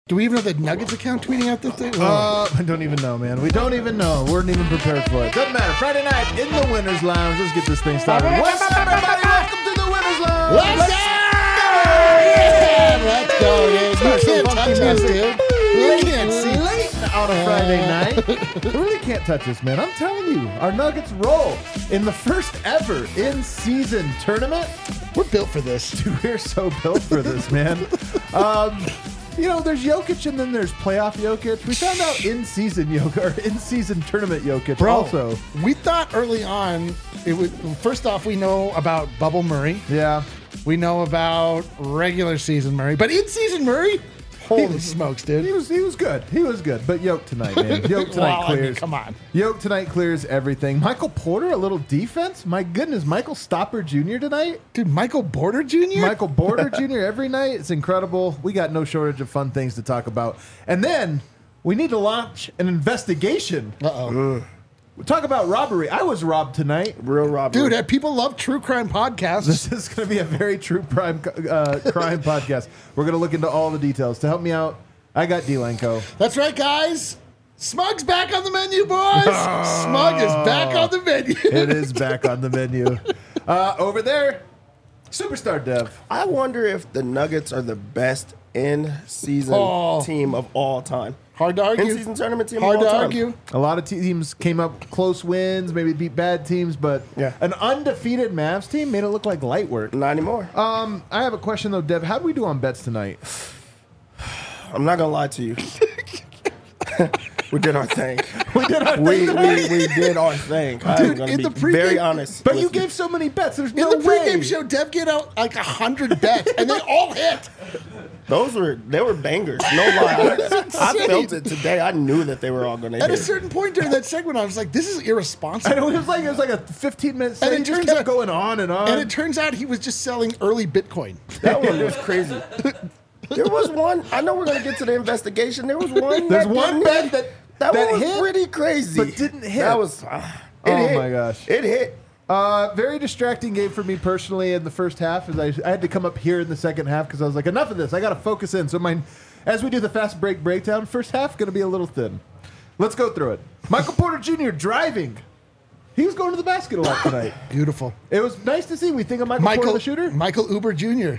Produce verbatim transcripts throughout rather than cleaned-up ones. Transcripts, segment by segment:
Do we even have the Nuggets account tweeting out this thing? Uh, I don't even know, man. We don't even know. We weren't even prepared for it. Doesn't matter. Friday night in the Winners Lounge. Let's get this thing started. What's up, everybody? Welcome to the Winners Lounge. Let's, Let's go! Yeah, let's go, dude. You can't touch us, dude. We can't see. Late on a Friday night. We really can't touch this, man. I'm telling you, our Nuggets roll in the first ever in-season tournament. We're built for this. Dude, we're so built for this, man. Um... You know, there's Jokic and then there's playoff Jokic. We found out in-season Jokic, or in-season tournament Jokic Bro, also. We thought early on, it was, first off, we know about Bubble Murray. Yeah. We know about regular season Murray. But in-season Murray? Holy he, smokes, dude. He was he was good. He was good. But Yoke tonight, man. Yoke tonight well, clears. I mean, come on. Yoke tonight clears everything. Michael Porter, a little defense. My goodness, Michael Stopper Junior tonight. Dude, Michael Porter Junior? Michael Porter Junior every night. It's incredible. We got no shortage of fun things to talk about. And then we need to launch an investigation. Uh-oh. Ugh. We talk about robbery. I was robbed tonight. Real robbery. Dude, people love true crime podcasts. This is going to be a very true crime, uh, crime podcast. We're going to look into all the details. To help me out, I got D-Lenko. That's right, guys. Smug's back on the menu, boys. Smug is back on the menu. It is back on the menu. Uh, over there, Superstar Dev. I wonder if the Nuggets are the best in-season Oh. team of all time. Hard to argue. In-season tournament team Hard of all to time. argue. A lot of teams came up close wins, maybe beat bad teams, but Yeah. an undefeated Mavs team made it look like light work. Not anymore. Um, I have a question though, Dev. How do we do on bets tonight? I'm not going to lie to you. We did our thing. We did our we, thing. we, we did our thing. I'm Dude, going in to the be pregame- very honest. But with you gave so many bets. There's In no the pregame way. show, Dev gave out like a hundred bets, and they all hit. Those were, they were bangers. No lie. I, I felt it today. I knew that they were all going to At hit. a certain point during that segment, I was like, "This is I irresponsible." know, it was like it was like a fifteen minute And set. it It just turns kept out- going on and on. And it turns out he was just selling early Bitcoin. That one was crazy. There was one. I know we're going to get to the investigation. There was one. There's that one didn't bet hit. that That, that one was hit, pretty crazy, but didn't hit. That was. Uh, it Oh, hit. my gosh. It hit. Uh, very distracting game for me personally in the first half. As I, I had to come up here in the second half because I was like, enough of this. I got to focus in. So my, as we do the fast break breakdown, first half going to be a little thin. Let's go through it. Michael Porter Junior driving. He was going to the basket a lot tonight. Beautiful. It was nice to see. We think of Michael, Michael, Porter the shooter. Michael Uber Junior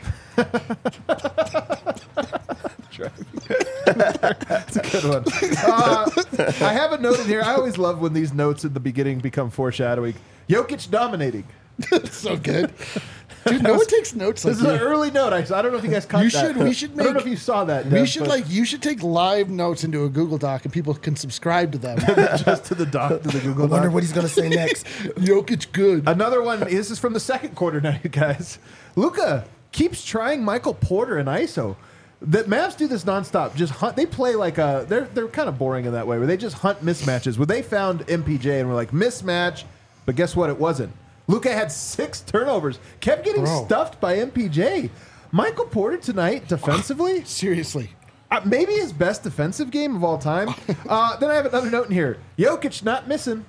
That's a good one. Uh, I have a note in here. I always love when these notes in the beginning become foreshadowing. Jokic dominating. So good. Dude, no one takes notes like This is an you. early note. I, I don't know if you guys caught You that. should- we should I don't know make- if you saw that. We Dev, should but like you should take live notes into a Google Doc and people can subscribe to them. just to the doc, to the Google I wonder Doc. what he's going to say next. Jokic good. Another one. This is from the second quarter now, you guys. Luka keeps trying Michael Porter and I S O. The Mavs do this nonstop. Just hunt. They play like a. They're they're kind of boring in that way, where they just hunt mismatches. Where they found M P J and were like mismatch, but guess what? It wasn't. Luka had six turnovers. Kept getting Bro. stuffed by M P J. Michael Porter tonight defensively. Seriously. Uh, maybe his best defensive game of all time. Uh, then I have another note in here. Jokic not missing.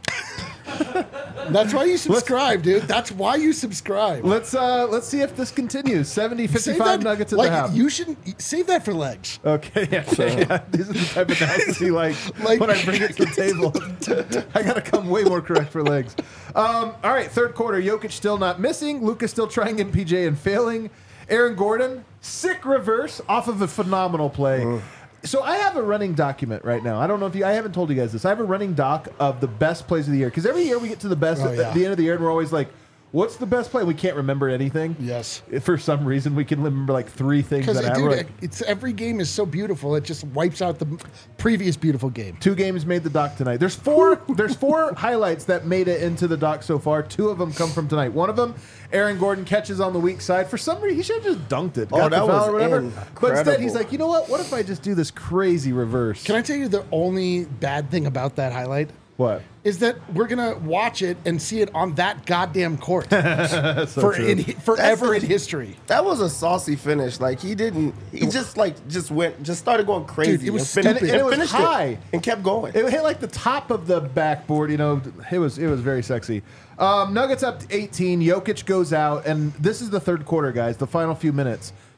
That's why you subscribe, dude. That's why you subscribe. Let's uh, let's see if this continues. seventy Save fifty-five that- Nuggets at like, the half. You shouldn't save that for legs. Okay, yeah, yeah. These are the type of analysis he likes Like- when I bring it to the table. I got to come way more correct for legs. Um, all right, third quarter. Jokic still not missing. Luka still trying M P J and failing. Aaron Gordon, sick reverse off of a phenomenal play. Mm. So I have a running document right now. I don't know if you, I haven't told you guys this. I have a running doc of the best plays of the year. Because every year we get to the best Oh, at yeah. the end of the year and we're always like, what's the best play? We can't remember anything. Yes. For some reason, we can remember like three things Because that happen. dude, We're like, it's every game is so beautiful. It just wipes out the previous beautiful game. two games made the doc tonight. There's four. There's four highlights that made it into the doc so far. Two of them come from tonight. One of them, Aaron Gordon catches on the weak side. For some reason, he should have just dunked it. Oh, got that the foul was or whatever. But instead, he's incredible. like, you know what? What if I just do this crazy reverse? Can I tell you the only bad thing about that highlight? What? Is that we're gonna watch it and see it on that goddamn court That's so for true. in, forever That's in history. That was a saucy finish. Like he didn't. He just like just went. Just started going crazy. Dude, it was and, fin- stupid. And it was finished high. and kept going. It hit like the top of the backboard. You know, it was it was very sexy. Um, Nuggets up to eighteen. Jokic goes out, and this is the third quarter, guys. The final few minutes.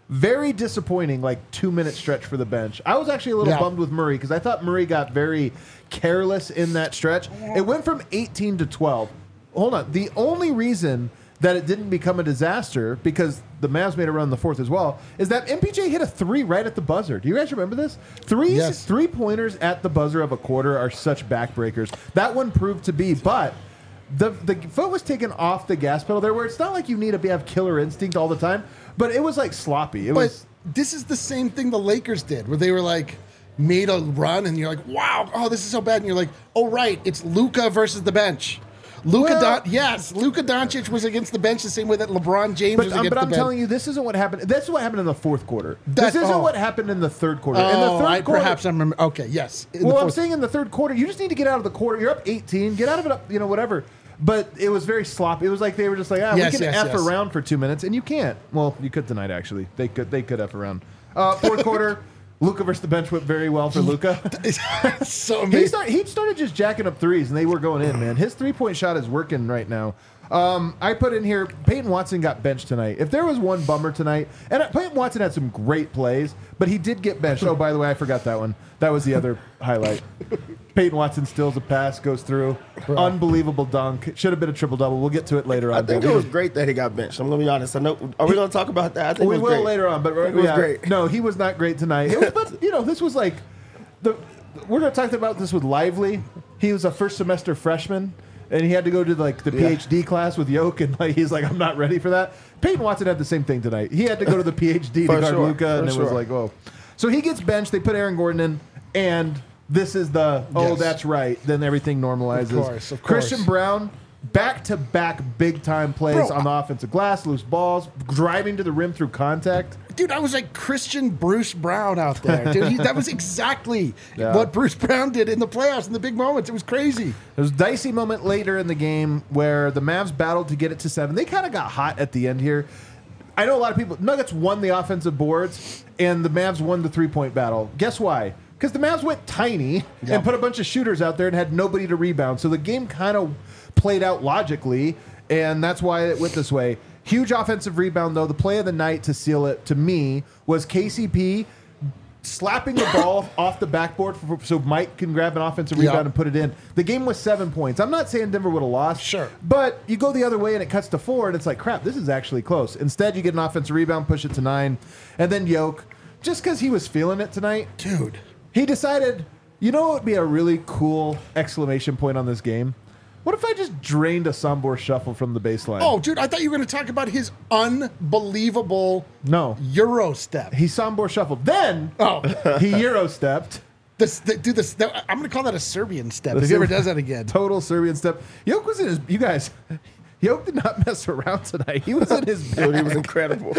Very disappointing, like two minute stretch for the bench. I was actually a little Yeah. bummed with Murray because I thought Murray got very careless in that stretch. It went from eighteen to twelve. Hold on. The only reason that it didn't become a disaster, because the Mavs made a run in the fourth as well, is that M P J hit a three right at the buzzer. Do you guys remember this? Threes, Yes. three pointers at the buzzer of a quarter are such backbreakers. That one proved to be, but the the foot was taken off the gas pedal there, where it's not like you need to be, have killer instinct all the time, but it was like sloppy. It But was. this is the same thing the Lakers did, where they were like made a run, and you're like, "Wow, oh, this is so bad," and you're like, "Oh, right, it's Luka versus the bench." Luka, Well- Don- yes, Luka Doncic was against the bench the same way that LeBron James But, was um, against but the I'm bench. telling you, this isn't what happened. This is what happened in the fourth quarter. That- this isn't oh. what happened in the third quarter. in the Oh, third I, quarter, perhaps I remember. Okay, yes. In the well, I'm fourth- saying in the third quarter, you just need to get out of the quarter. You're up eighteen. Get out of it up, you know, whatever. But it was very sloppy. It was like they were just like, ah, Yes, we can yes, F yes. around for two minutes, and you can't. Well, you could tonight, actually. They could They could F around. Uh, fourth quarter, Luka versus the bench went very well for Luka. It's so He, amazing. start, he started just jacking up threes, and they were going in, man. His three-point shot is working right now. Um, I put in here, Peyton Watson got benched tonight. If there was one bummer tonight, and Peyton Watson had some great plays, but he did get benched. Oh, by the way, I forgot that one. That was the other highlight. Peyton Watson steals a pass, goes through. Unbelievable dunk. Should have been a triple-double. We'll get to it later on. I think but it we- was great that he got benched. I'm gonna be honest. I know. Are we gonna talk about that? I think we it was will great. later on, but I think it was yeah, great. no, he was not great tonight. It was, but you know, this was like the we're going to talk about this with Lively. He was a first semester freshman, and he had to go to like the Yeah. PhD class with Yoke, and like he's like, I'm not ready for that. Peyton Watson had the same thing tonight. He had to go to the PhD to For guard sure, Luka, and for it was sure. like, whoa. So he gets benched. They put Aaron Gordon in, and this is the oh, Yes. that's right. Then everything normalizes. Of course, of course. Christian Brown. Back to back big time plays Bro, on the offensive glass, loose balls, driving to the rim through contact. Dude, I was like Christian Bruce Brown out there. Dude, he, that was exactly Yeah. what Bruce Brown did in the playoffs in the big moments. It was crazy. There was a dicey moment later in the game where the Mavs battled to get it to seven. They kind of got hot at the end here. I know a lot of people. Nuggets won the offensive boards, and the Mavs won the three-point battle. Guess why? Because the Mavs went tiny Yep. and put a bunch of shooters out there and had nobody to rebound. So the game kind of played out logically, and that's why it went this way. Huge offensive rebound, though. The play of the night to seal it, to me, was K C P slapping the ball off the backboard for, so Mike can grab an offensive Yeah. rebound and put it in. The game was seven points. I'm not saying Denver would have lost. Sure. But you go the other way and it cuts to four, and it's like, crap, this is actually close. Instead, you get an offensive rebound, push it to nine, and then Yoke, just because he was feeling it tonight, Dude. he decided, you know what would be a really cool exclamation point on this game? What if I just drained a Sambor shuffle from the baseline? Oh, dude, I thought you were going to talk about his unbelievable no. Euro step. He Sambor shuffled. Then Oh, he Euro stepped. this, the, dude, this, the, I'm going to call that a Serbian step The if he ever Serb- does that again. Total Serbian step. Yoke was in his. You guys, Yoke did not mess around tonight. He was in his bag. Dude, he was incredible.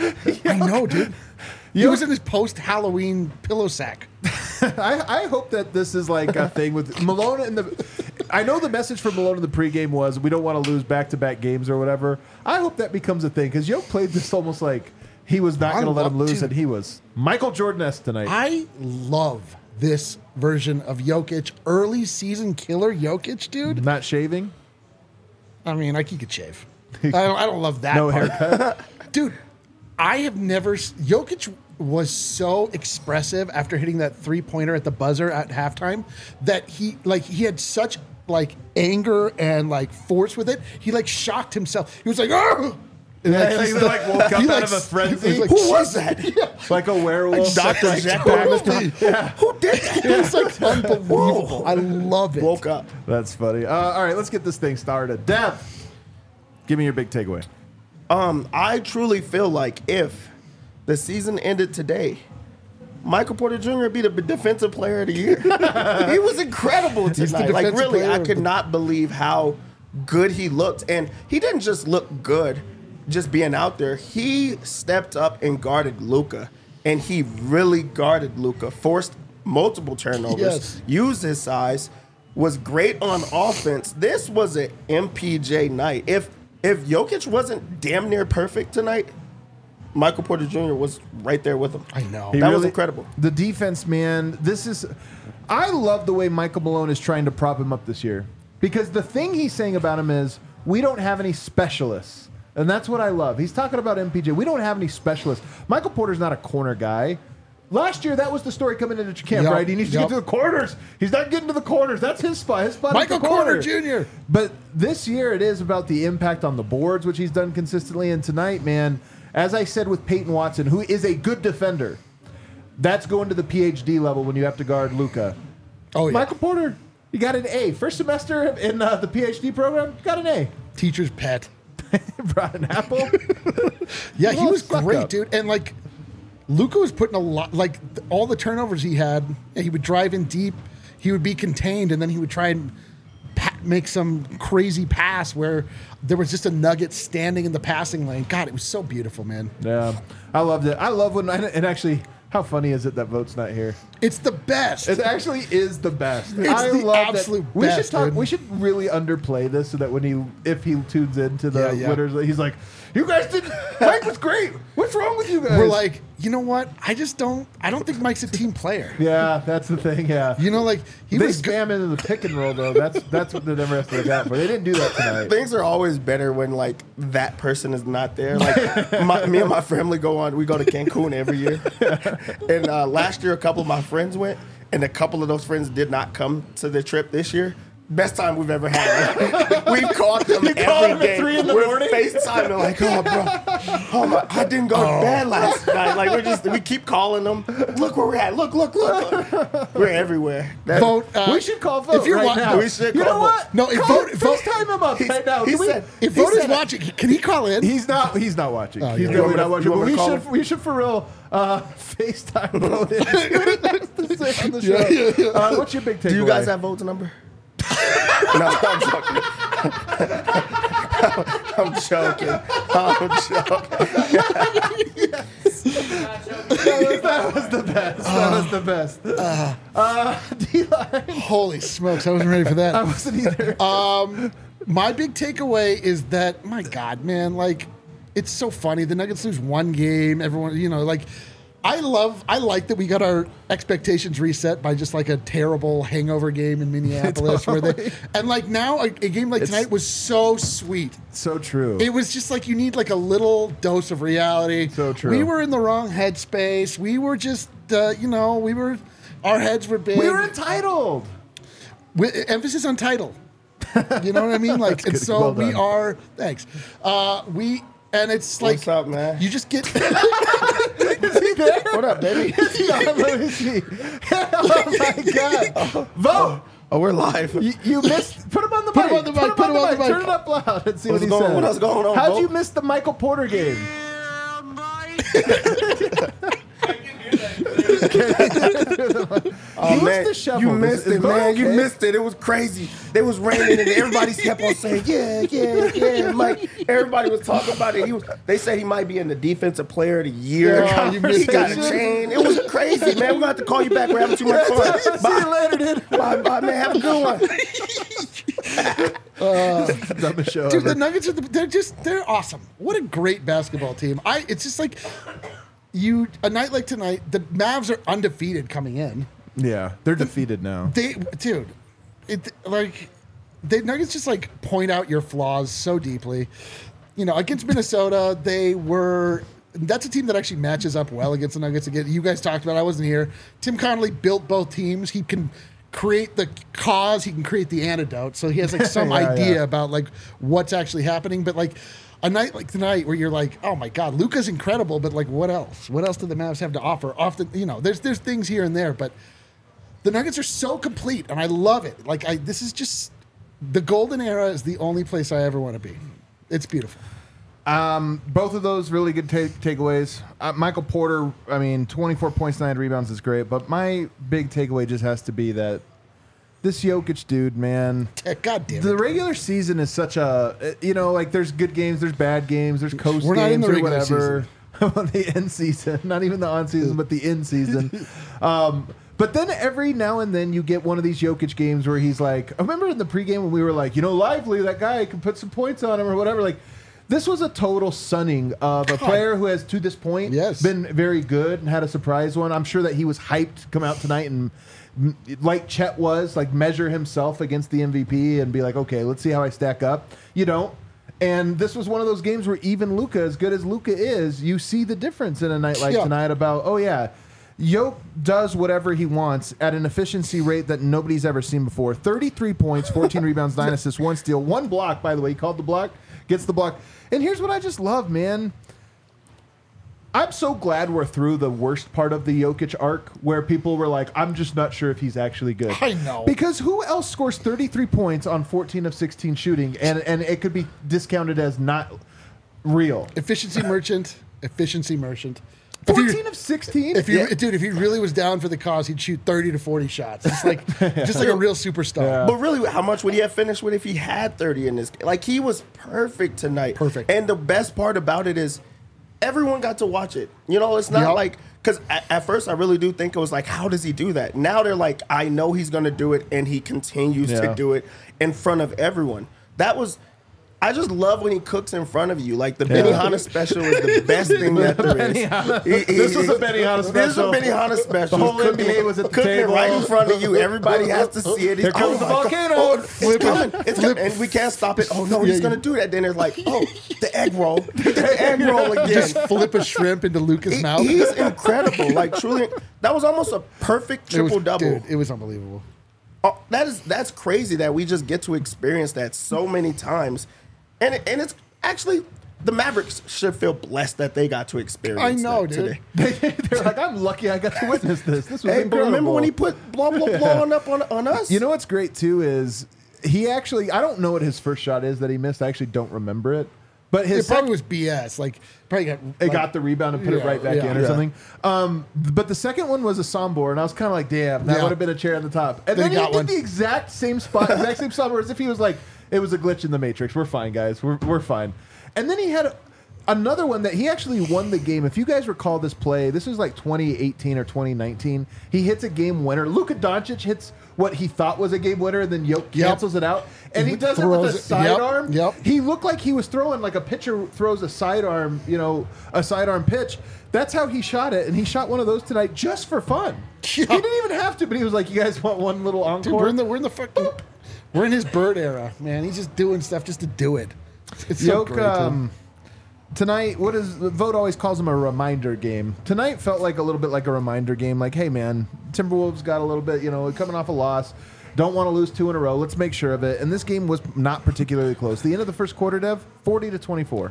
I know, dude. He Yoke- was in his post-Halloween pillow sack. I, I hope that this is like a thing with Malone and the. I know the message from Malone in the pregame was we don't want to lose back-to-back games or whatever. I hope that becomes a thing because Yoke played this almost like he was not I going to let love- him lose, dude. and he was Michael Jordan-esque tonight. I love this version of Jokic. Early season killer Jokic, dude. not shaving, I mean, like he could shave. I don't, I don't love that no part. haircut. Dude, I have never. s- Jokic was so expressive after hitting that three pointer at the buzzer at halftime that he like he had such like anger and like force with it. He like shocked himself. He was like, oh. Yeah, he like woke up out of a frenzy. Who was that? Yeah. like a werewolf. Doctor Like, Jack totally. Barnes. Who did that? It's like unbelievable. I love it. Woke up. That's funny. Uh, all right, let's get this thing started. Dev, give me your big takeaway. Um, I truly feel like if the season ended today, Michael Porter Junior would be the defensive player of the year. He was incredible the tonight. Like, defensive really, player I of could the- not believe how good he looked. And he didn't just look good just being out there. He stepped up and guarded Luka. And he really guarded Luka, forced multiple turnovers, Yes. used his size, was great on offense. This was an M P J night. If if Jokic wasn't damn near perfect tonight, Michael Porter Junior was right there with him. I know. He That was really- incredible. The defense, man. This is. I love the way Michael Malone is trying to prop him up this year because the thing he's saying about him is we don't have any specialists. And that's what I love. He's talking about M P J. We don't have any specialists. Michael Porter's not a corner guy. Last year, that was the story coming into camp, Yep, right? He needs to yep. get to the corners. He's not getting to the corners. That's his spot. His spot Michael is the corner. Porter Junior But this year, it is about the impact on the boards, which he's done consistently. And tonight, man, as I said with Peyton Watson, who is a good defender, that's going to the P H D level when you have to guard Luka. Oh, yeah. Michael Porter, you got an A. First semester in uh, the P H D program, you got an A. Teacher's pet. Brought an apple. Yeah, he Well, was fuck great, up. dude. And like, Luka was putting a lot, like th- all the turnovers he had, and he would drive in deep, he would be contained, and then he would try and pa- make some crazy pass where there was just a nugget standing in the passing lane. God, it was so beautiful, man. Yeah, I loved it. I love when, and actually, how funny is it that Vote's not here? It's the best. It actually is the best. It's I the love absolute that. We should best, talk. dude. We should really underplay this so that when he, if he tunes into the Yeah, yeah. winners, he's like, "You guys did. Mike was great. What's wrong with you guys?" We're like, you know what? I just don't. I don't think Mike's a team player. yeah, that's the thing. Yeah, You know, like he they was. Good. spam into the pick and roll though. That's that's what they never have to look out for. They didn't do that tonight. Things are always better when like that person is not there. Like my, me and my family go on. We go to Cancun every year, and uh, last year a couple of my friends went, and a couple of those friends did not come to the trip this year. Best time we've ever had. We've called them You called every them at day. three in the We're morning? FaceTiming like, oh, bro, oh my, I didn't go to bed last night. Like we're just, we keep calling them. Look where we're at. Look, look, look. look. We're everywhere. That- Vote. Uh, we should call Vote if you're right wa- now. we should you call know Vote. what? No, if Call- Vote- Vote- FaceTime him up right now. he Can we- said- If he Vote is said- watching, can he call in? He's not. He's not watching. Oh, he's yeah. definitely You want me not to- watching. you But want me we to call should. him? We should for real uh, FaceTime Vote in. See what he has to say on the show. Yeah, yeah, yeah. Uh, what's your big takeaway? Do you guys have Vote's number? No, I'm joking. I'm joking. I'm joking. that was the best. That was the best. Uh, D-line. Holy smokes! I wasn't ready for I that. wasn't either. My big takeaway is that, my God, man, like, it's so funny. The Nuggets lose one game. Everyone, you know, like, I love, I like that we got our expectations reset by just like a terrible hangover game in Minneapolis, where Totally. they, and like now a, a game like It's- tonight was so sweet. so true. It was just like you need like a little dose of reality. So true. We were in the wrong headspace. We were just, uh, you know, we were, our heads were big. we were entitled. With emphasis on title. You know what I mean? Like, and good. so Well we done. are. Thanks. Uh, we and it's like What's up, man? you just get. Is he there? What up, baby? Yeah, let me see. Oh my God! Vote. Oh, we're live. You, you missed. Put him on the Put mic. him on the mic, put him on the mic. Turn it up loud and see What's what he going- says. what else going on, How'd Vote? you miss the Michael Porter game? Oh, He was man, disheveled. you Is- missed is it, Vote man. You okay? missed it. It was crazy. It was raining, and everybody kept on saying, "Yeah, yeah, yeah." Mike, everybody was talking about it. He was. They said he might be in the defensive player of the year. Yeah, you missed he got a it. chain. It was crazy, man. We're gonna have to call you back. We're having too much fun. See you Bye, later, dude. bye, bye, man. Have a good one. Dumbest show Dude, ever. the Nuggets are the, they're just they're awesome. What a great basketball team. I it's just like you a night like tonight, the Mavs are undefeated coming in. Yeah, they're defeated now. They dude, it like the Nuggets just like point out your flaws so deeply. You know, against Minnesota, they were that's a team that actually matches up well against the Nuggets. Again, you guys talked about it, I wasn't here. Tim Connolly built both teams. He can create the cause, he can create the antidote. So he has like some Yeah, idea yeah. about like what's actually happening. But like a night like tonight where you're like, oh my God, Luka's incredible, but like what else? What else do the Mavs have to offer? Often, you know, there's there's things here and there, but the Nuggets are so complete, and I love it. Like I, this is just the golden era is the only place I ever want to be. It's beautiful. Um, both of those really good ta- takeaways. Uh, Michael Porter, I mean, twenty-four points, nine rebounds is great, but my big takeaway just has to be that this Jokic dude, man. God damn it. The regular season is such a, you know, like there's good games, there's bad games, there's coast We're not in games the or regular whatever. The end season, not even the on season, but the in season. Um, but then every now and then you get one of these Jokic games where he's like, I remember in the pregame when we were like, you know, Lively, that guy can put some points on him or whatever. Like, this was a total sunning of a player who has, to this point, Yes. been very good and had a surprise one. I'm sure that he was hyped to come out tonight and, m- like Chet was, like measure himself against the M V P and be like, okay, let's see how I stack up. You don't. And this was one of those games where even Luka, as good as Luka is, you see the difference in a night like Yeah. tonight about, oh, yeah, Yoke does whatever he wants at an efficiency rate that nobody's ever seen before. thirty-three points, fourteen rebounds, nine assists, one steal, one block, by the way. He called the block, gets the block. And here's what I just love, man. I'm so glad we're through the worst part of the Jokic arc where people were like, I'm just not sure if he's actually good. I know. Because who else scores thirty-three points on fourteen of sixteen shooting and, and it could be discounted as not real? Efficiency merchant. Efficiency merchant. If he- fourteen of sixteen? If you, Yeah. dude, if he really was down for the cause, he'd shoot thirty to forty shots. It's like just like a real superstar. Yeah. But really, how much would he have finished with if he had thirty in this game? Like, he was perfect tonight. Perfect. And the best part about it is everyone got to watch it. You know, it's not Yep. like, because at, at first I really do think it was like, how does he do that? Now they're like, I know he's going to do it, and he continues Yeah. to do it in front of everyone. That was... I just love when he cooks in front of you. Like, the Benihana special is the best thing that there is. He- he- This was a Benihana This is a special. Benihana special. The whole He's N B A was at the cooking table. it right in front of you. Everybody has to see it. Here comes the my God. volcano. Oh, it's Flip it. coming. It's Flip. coming. And we can't stop it. Oh, no, Yeah, he's you- going to do that. Then it's like, oh, the egg roll. The egg roll again. Just flip a shrimp into Luca's He- mouth. he's incredible. Like, truly, that was almost a perfect It was- triple double. Dude, it was unbelievable. Oh, that is that's crazy that we just get to experience that so many times, and it, and it's actually the Mavericks should feel blessed that they got to experience. I know, that dude. Today. They're like, I'm lucky I got to witness this. This was Hey, but incredible. remember when he put blah blah blah on up on, on us? You know what's great too is he actually, I don't know what his first shot is that he missed. I actually don't remember it. But his It probably sec- was B S. Like, probably got. It like, got the rebound and put it Yeah, right back yeah. in or Yeah. something. Um, but the second one was a Sombor, and I was kind of like, damn, that Yeah. would have been a chair on the top. And They then he got did one. the exact same spot, exact same Sombor, as if he was like, it was a glitch in the Matrix. We're fine, guys. We're, we're fine. And then he had a, another one that he actually won the game. If you guys recall this play, this was like twenty eighteen or twenty nineteen. He hits a game winner. Luka Doncic hits what he thought was a game winner, and then Yoke Yep. cancels it out. And he He does it with a throws it- sidearm. yep, yep. He looked like he was throwing like a pitcher throws a sidearm, you know, a sidearm pitch. That's how he shot it, and he shot one of those tonight just for fun. He Yeah. didn't even have to, but he was like, "You guys want one little encore?" Dude, we're in the we're in the fucking we're in his Bird era, man. He's just doing stuff just to do it. It's so Yoke, great. dude. um, tonight, what is Vote always calls him a reminder game. Tonight felt like a little bit like a reminder game. Like, hey man, Timberwolves got a little bit, you know, coming off a loss. Don't want to lose two in a row. Let's make sure of it. And this game was not particularly close. The end of the first quarter, Dev, forty to twenty-four.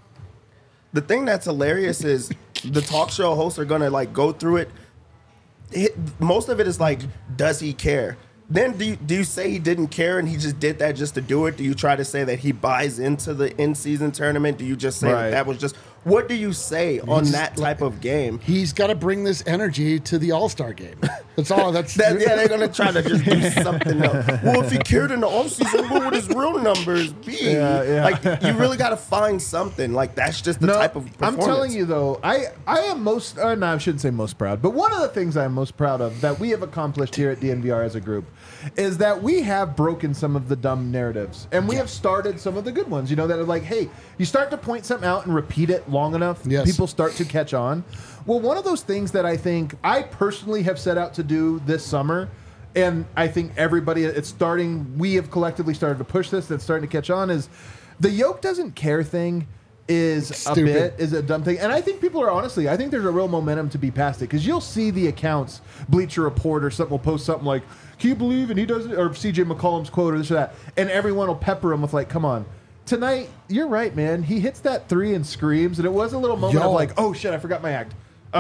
The thing that's hilarious is the talk show hosts are gonna like go through it. it. Most of it is like, does he care? Then do you, do you say he didn't care and he just did that just to do it? Do you try to say that he buys into the in-season tournament? Do you just say Right. that, that was just what do you say on just, that type of game? He's got to bring this energy to the All Star game. That's all. That's That, yeah, they're gonna try to just do something else. Well, if he cared in the offseason, what would his real numbers be? Yeah, yeah. Like you really got to find something. Like that's just the type of I'm performance. telling you though, I I am most uh, no, I shouldn't say most proud, but one of the things I'm most proud of that we have accomplished here at D N V R as a group is that we have broken some of the dumb narratives and we have started some of the good ones. You know that are like, hey, you start to point something out and repeat it long enough, Yes. people start to catch on. Well, one of those things that I think I personally have set out to do this summer. And I think everybody, it's starting, we have collectively started to push this, that's starting to catch on, is the Yoke doesn't care thing is a Stupid. bit, is a dumb thing. And I think people are honestly, I think there's a real momentum to be past it. Because you'll see the accounts, Bleacher Report or something will post something like, can you believe, and he does it, or C J McCollum's quote or this or that. And everyone will pepper him with like, come on. Tonight, you're right, man. He hits that three and screams. And it was a little moment Yo. of like, oh shit, I forgot my act.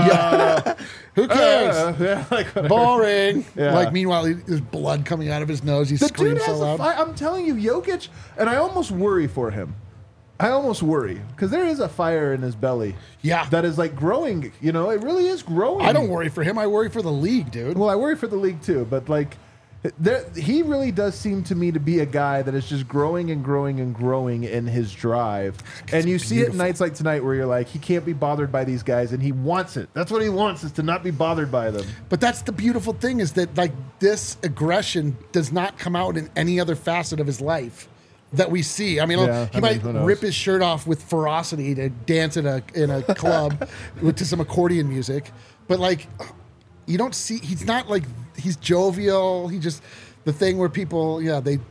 Who cares? Uh, yeah, like whatever. Boring. Yeah. Like meanwhile, he, there's blood coming out of his nose. He's The dude screaming has so a loud. fi- I'm telling you, Jokic, and I almost worry for him. I almost worry because there is a fire in his belly. Yeah. that is like growing. You know, it really is growing. I don't worry for him. I worry for the league, dude. Well, I worry for the league too, but like, there, he really does seem to me to be a guy that is just growing and growing and growing in his drive. And you see it beautiful. nights like tonight where you're like, he can't be bothered by these guys, and he wants it. That's what he wants, is to not be bothered by them. But that's the beautiful thing is that like this aggression does not come out in any other facet of his life that we see. I mean, Yeah, he I mean, might who knows? rip his shirt off with ferocity to dance in a in a club with to some accordion music, but like you don't see. He's not like he's jovial. He just the thing where people, yeah, they just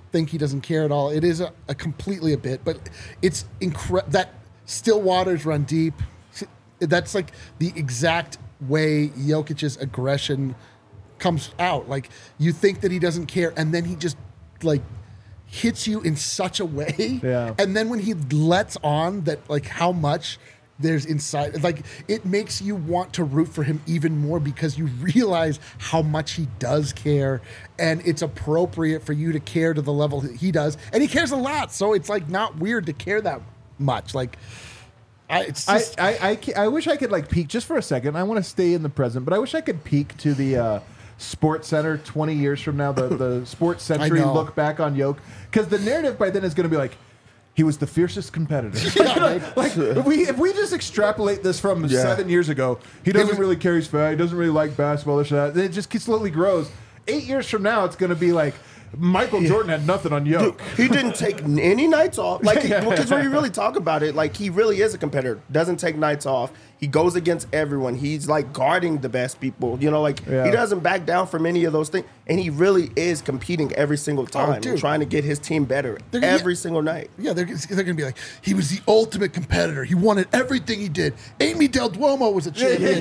think he doesn't care at all. It is a, a completely a bit, but it's incredible that still waters run deep. That's like the exact way Jokic's aggression comes out. Like you think that he doesn't care, and then he just like hits you in such a way. Yeah. And then when he lets on that, like how much there's inside, like it makes you want to root for him even more because you realize how much he does care, and it's appropriate for you to care to the level that he does, and he cares a lot. So it's like not weird to care that much. Like. I, it's just, I, I, I, ca- I wish I could like peek just for a second. I want to stay in the present, but I wish I could peek to the uh, Sports Center twenty years from now, the, the Sports Century know. look back on Yoke. Because the narrative by then is going to be like, he was the fiercest competitor. Yeah, right. Like if we if we just extrapolate this from Yeah. seven years ago, he doesn't was- really care, he's fat, he doesn't really like basketball, this or that. It just slowly grows. Eight years from now, it's going to be like, Michael Jordan had nothing on Yoke. He didn't take any nights off. Like, because when you really talk about it, like, he really is a competitor. Doesn't take nights off. He goes against everyone. He's, like, guarding the best people. You know, like, Yeah. he doesn't back down from any of those things. And he really is competing every single time and dude. trying to get his team better They're gonna- every single night. yeah, they're, they're going to be like, he was the ultimate competitor. He wanted everything he did. Amy Del Duomo was a champion.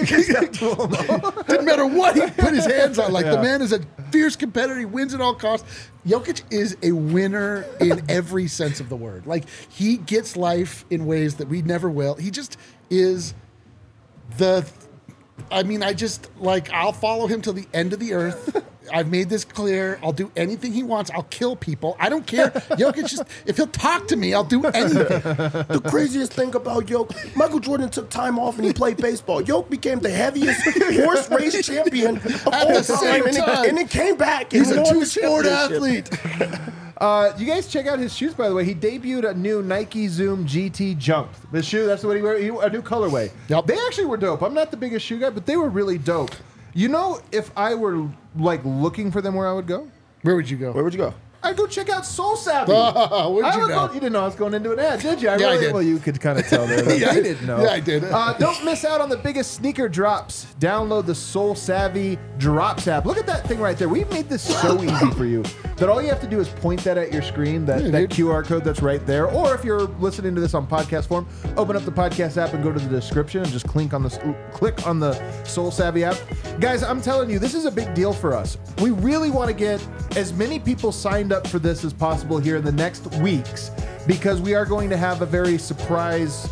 Didn't matter what he put his hands on. Like, Yeah. the man is a fierce competitor. He wins at all costs. Jokic is a winner in every sense of the word. Like, he gets life in ways that we never will. He just is the... I mean, I just, like, I'll follow him till the end of the earth. I've made this clear. I'll do anything he wants. I'll kill people. I don't care. Jokic just, if he'll talk to me, I'll do anything. The craziest thing about Yoke, Michael Jordan took time off and he played baseball. Yoke became the heaviest horse race champion of At all the same time. And, time. It, and it came back. He's and a won the two-sport championship. athlete. Uh, you guys check out his shoes, by the way. He debuted a new Nike Zoom G T Jump. The shoe, that's what he wear. He, a new colorway. Yep. They actually were dope. I'm not the biggest shoe guy, but they were really dope. You know, if I were like looking for them, where I would go? Where would you go? Where would you go? I'd go check out Soul Savvy. Oh, where'd I you would know? go- you didn't know I was going into an ad, did you? I Yeah, I really, did. Well, you could kind of tell there. But Yeah, they I- didn't know. yeah, I did. Uh, don't miss out on the biggest sneaker drops. Download the Soul Savvy Drops app. Look at that thing right there. We've made this so easy for you that all you have to do is point that at your screen, that, Yeah, that dude. Q R code that's right there. Or if you're listening to this on podcast form, open up the podcast app and go to the description and just click on the click on the Soul Savvy app. Guys, I'm telling you, this is a big deal for us. We really want to get as many people signed up for this as possible here in the next weeks, because we are going to have a very surprise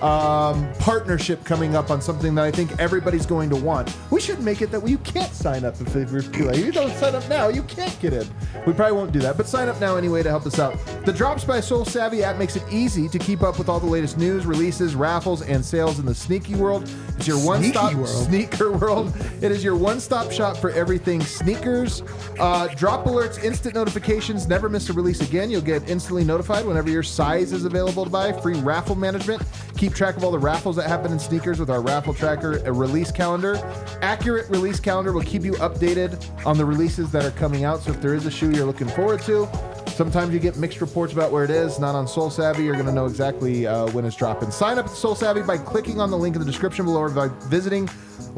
um, partnership coming up on something that I think everybody's going to want. We should make it that you can't sign up if you're too late. You don't sign up now, you can't get in. We probably won't do that, but sign up now anyway to help us out. The Drops by Soul Savvy app makes it easy to keep up with all the latest news, releases, raffles, and sales in the sneaky world. It's your one-stop Sneaky world. sneaker world. It is your one-stop shop for everything sneakers. Uh, drop alerts, instant notifications, never miss a release again. You'll get instantly notified whenever your size is available to buy. Free raffle management. Keep track of all the raffles that happen in sneakers with our raffle tracker, a release calendar. Accurate release calendar will keep you updated on the releases that are coming out. So if there is a shoe you're looking forward to, sometimes you get mixed reports about where it is. Not on Soul Savvy. You're going to know exactly uh, when it's dropping. Sign up at Soul Savvy by clicking on the link in the description below or by visiting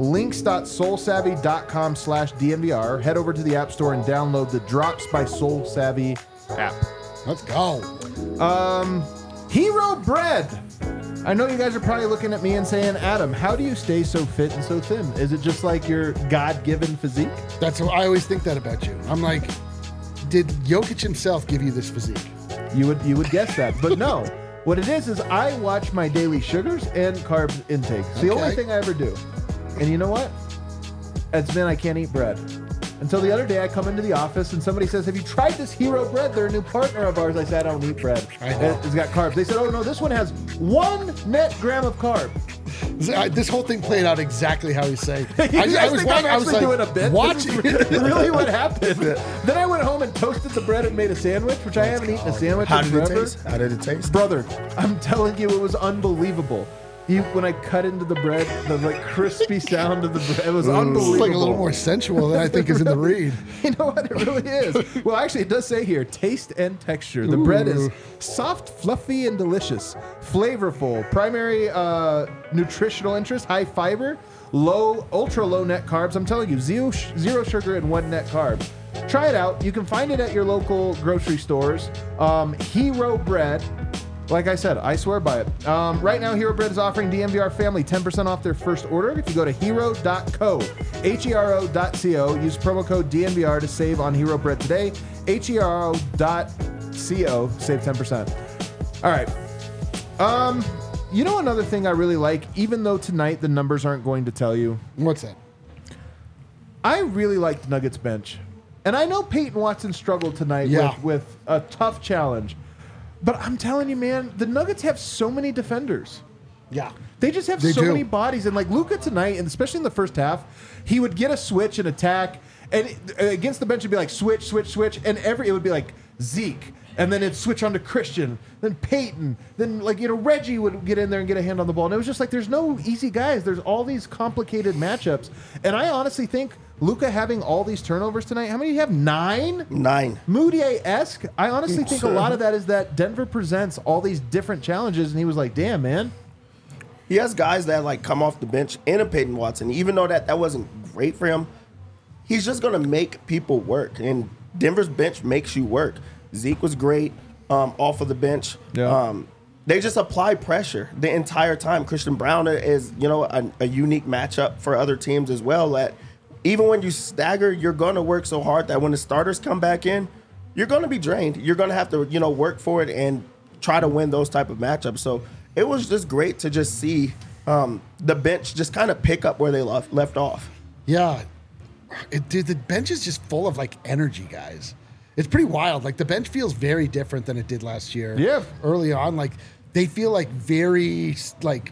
links.soulsavvy.com slash DNVR. Head over to the App Store and download the Drops by Soul Savvy app. Let's go. Um, Hero Bread. I know you guys are probably looking at me and saying, Adam, how do you stay so fit and so thin? Is it just like your God-given physique? That's what I always think that about you. I'm like, did Jokic himself give you this physique? You would you would guess that, but no. What it is is I watch my daily sugars and carbs intake. It's the Okay. only thing I ever do. And you know what? It's been I can't eat bread. Until the other day, I come into the office and somebody says, have you tried this Hero Bread? They're a new partner of ours. I said, I don't eat bread. I know. It's got carbs. They said, oh, no, this one has one net gram of carb. This whole thing played out exactly how he's saying. You I, guys I was, think wa- I'm I was actually like, doing a bit? watching. This is really what happened. Then I went home and toasted the bread and made a sandwich, which I haven't eaten a sandwich How in did it forever. taste? How did it taste? Brother, I'm telling you, it was unbelievable. You, when I cut into the bread, the like crispy sound of the bread, it was unbelievable. It's like a little more sensual than I think is in the read. You know what? It really is. Well, actually, it does say here, taste and texture. The bread is soft, fluffy, and delicious. Flavorful. Primary uh, nutritional interest, high fiber, low, ultra low net carbs. I'm telling you, zero, zero sugar and one net carb. Try it out. You can find it at your local grocery stores. Um, Hero Bread. Like I said, I swear by it. Um, right now, Hero Bread is offering D M V R family ten percent off their first order. If you go to hero dot co, H E R O dot C O, use promo code D M V R to save on Hero Bread today. H E R O dot C O, save ten percent. All right. Um, you know another thing I really like, even though tonight the numbers aren't going to tell you? What's that? I really like the Nuggets bench. And I know Peyton Watson struggled tonight Yeah. with, with a tough challenge. But I'm telling you, man, the Nuggets have so many defenders. Yeah. They just have They so do. many bodies. And like Luka tonight, and especially in the first half, he would get a switch and attack. And against the bench, it'd be like switch, switch, switch. And every it would be like Zeke. And then it'd switch on to Christian. Then Peyton. Then like, you know, Reggie would get in there and get a hand on the ball. And it was just like, there's no easy guys. There's all these complicated matchups. And I honestly think Luka having all these turnovers tonight, how many do you have? Nine? Nine. Moutier-esque. I honestly think a lot of that is that Denver presents all these different challenges, and he was like, damn, man. He has guys that like come off the bench in a Peyton Watson. Even though that, that wasn't great for him, he's just going to make people work. And Denver's bench makes you work. Zeke was great um, off of the bench. Yeah. Um, they just apply pressure the entire time. Christian Braun is, you know, a, a unique matchup for other teams as well. That even when you stagger, you're going to work so hard that when the starters come back in, you're going to be drained. You're going to have to, you know, work for it and try to win those type of matchups. So it was just great to just see um, the bench just kind of pick up where they left, left off. Yeah. It, dude, the bench is just full of like energy, guys. It's pretty wild. Like the bench feels very different than it did last year. Yeah. Early on, like they feel like very like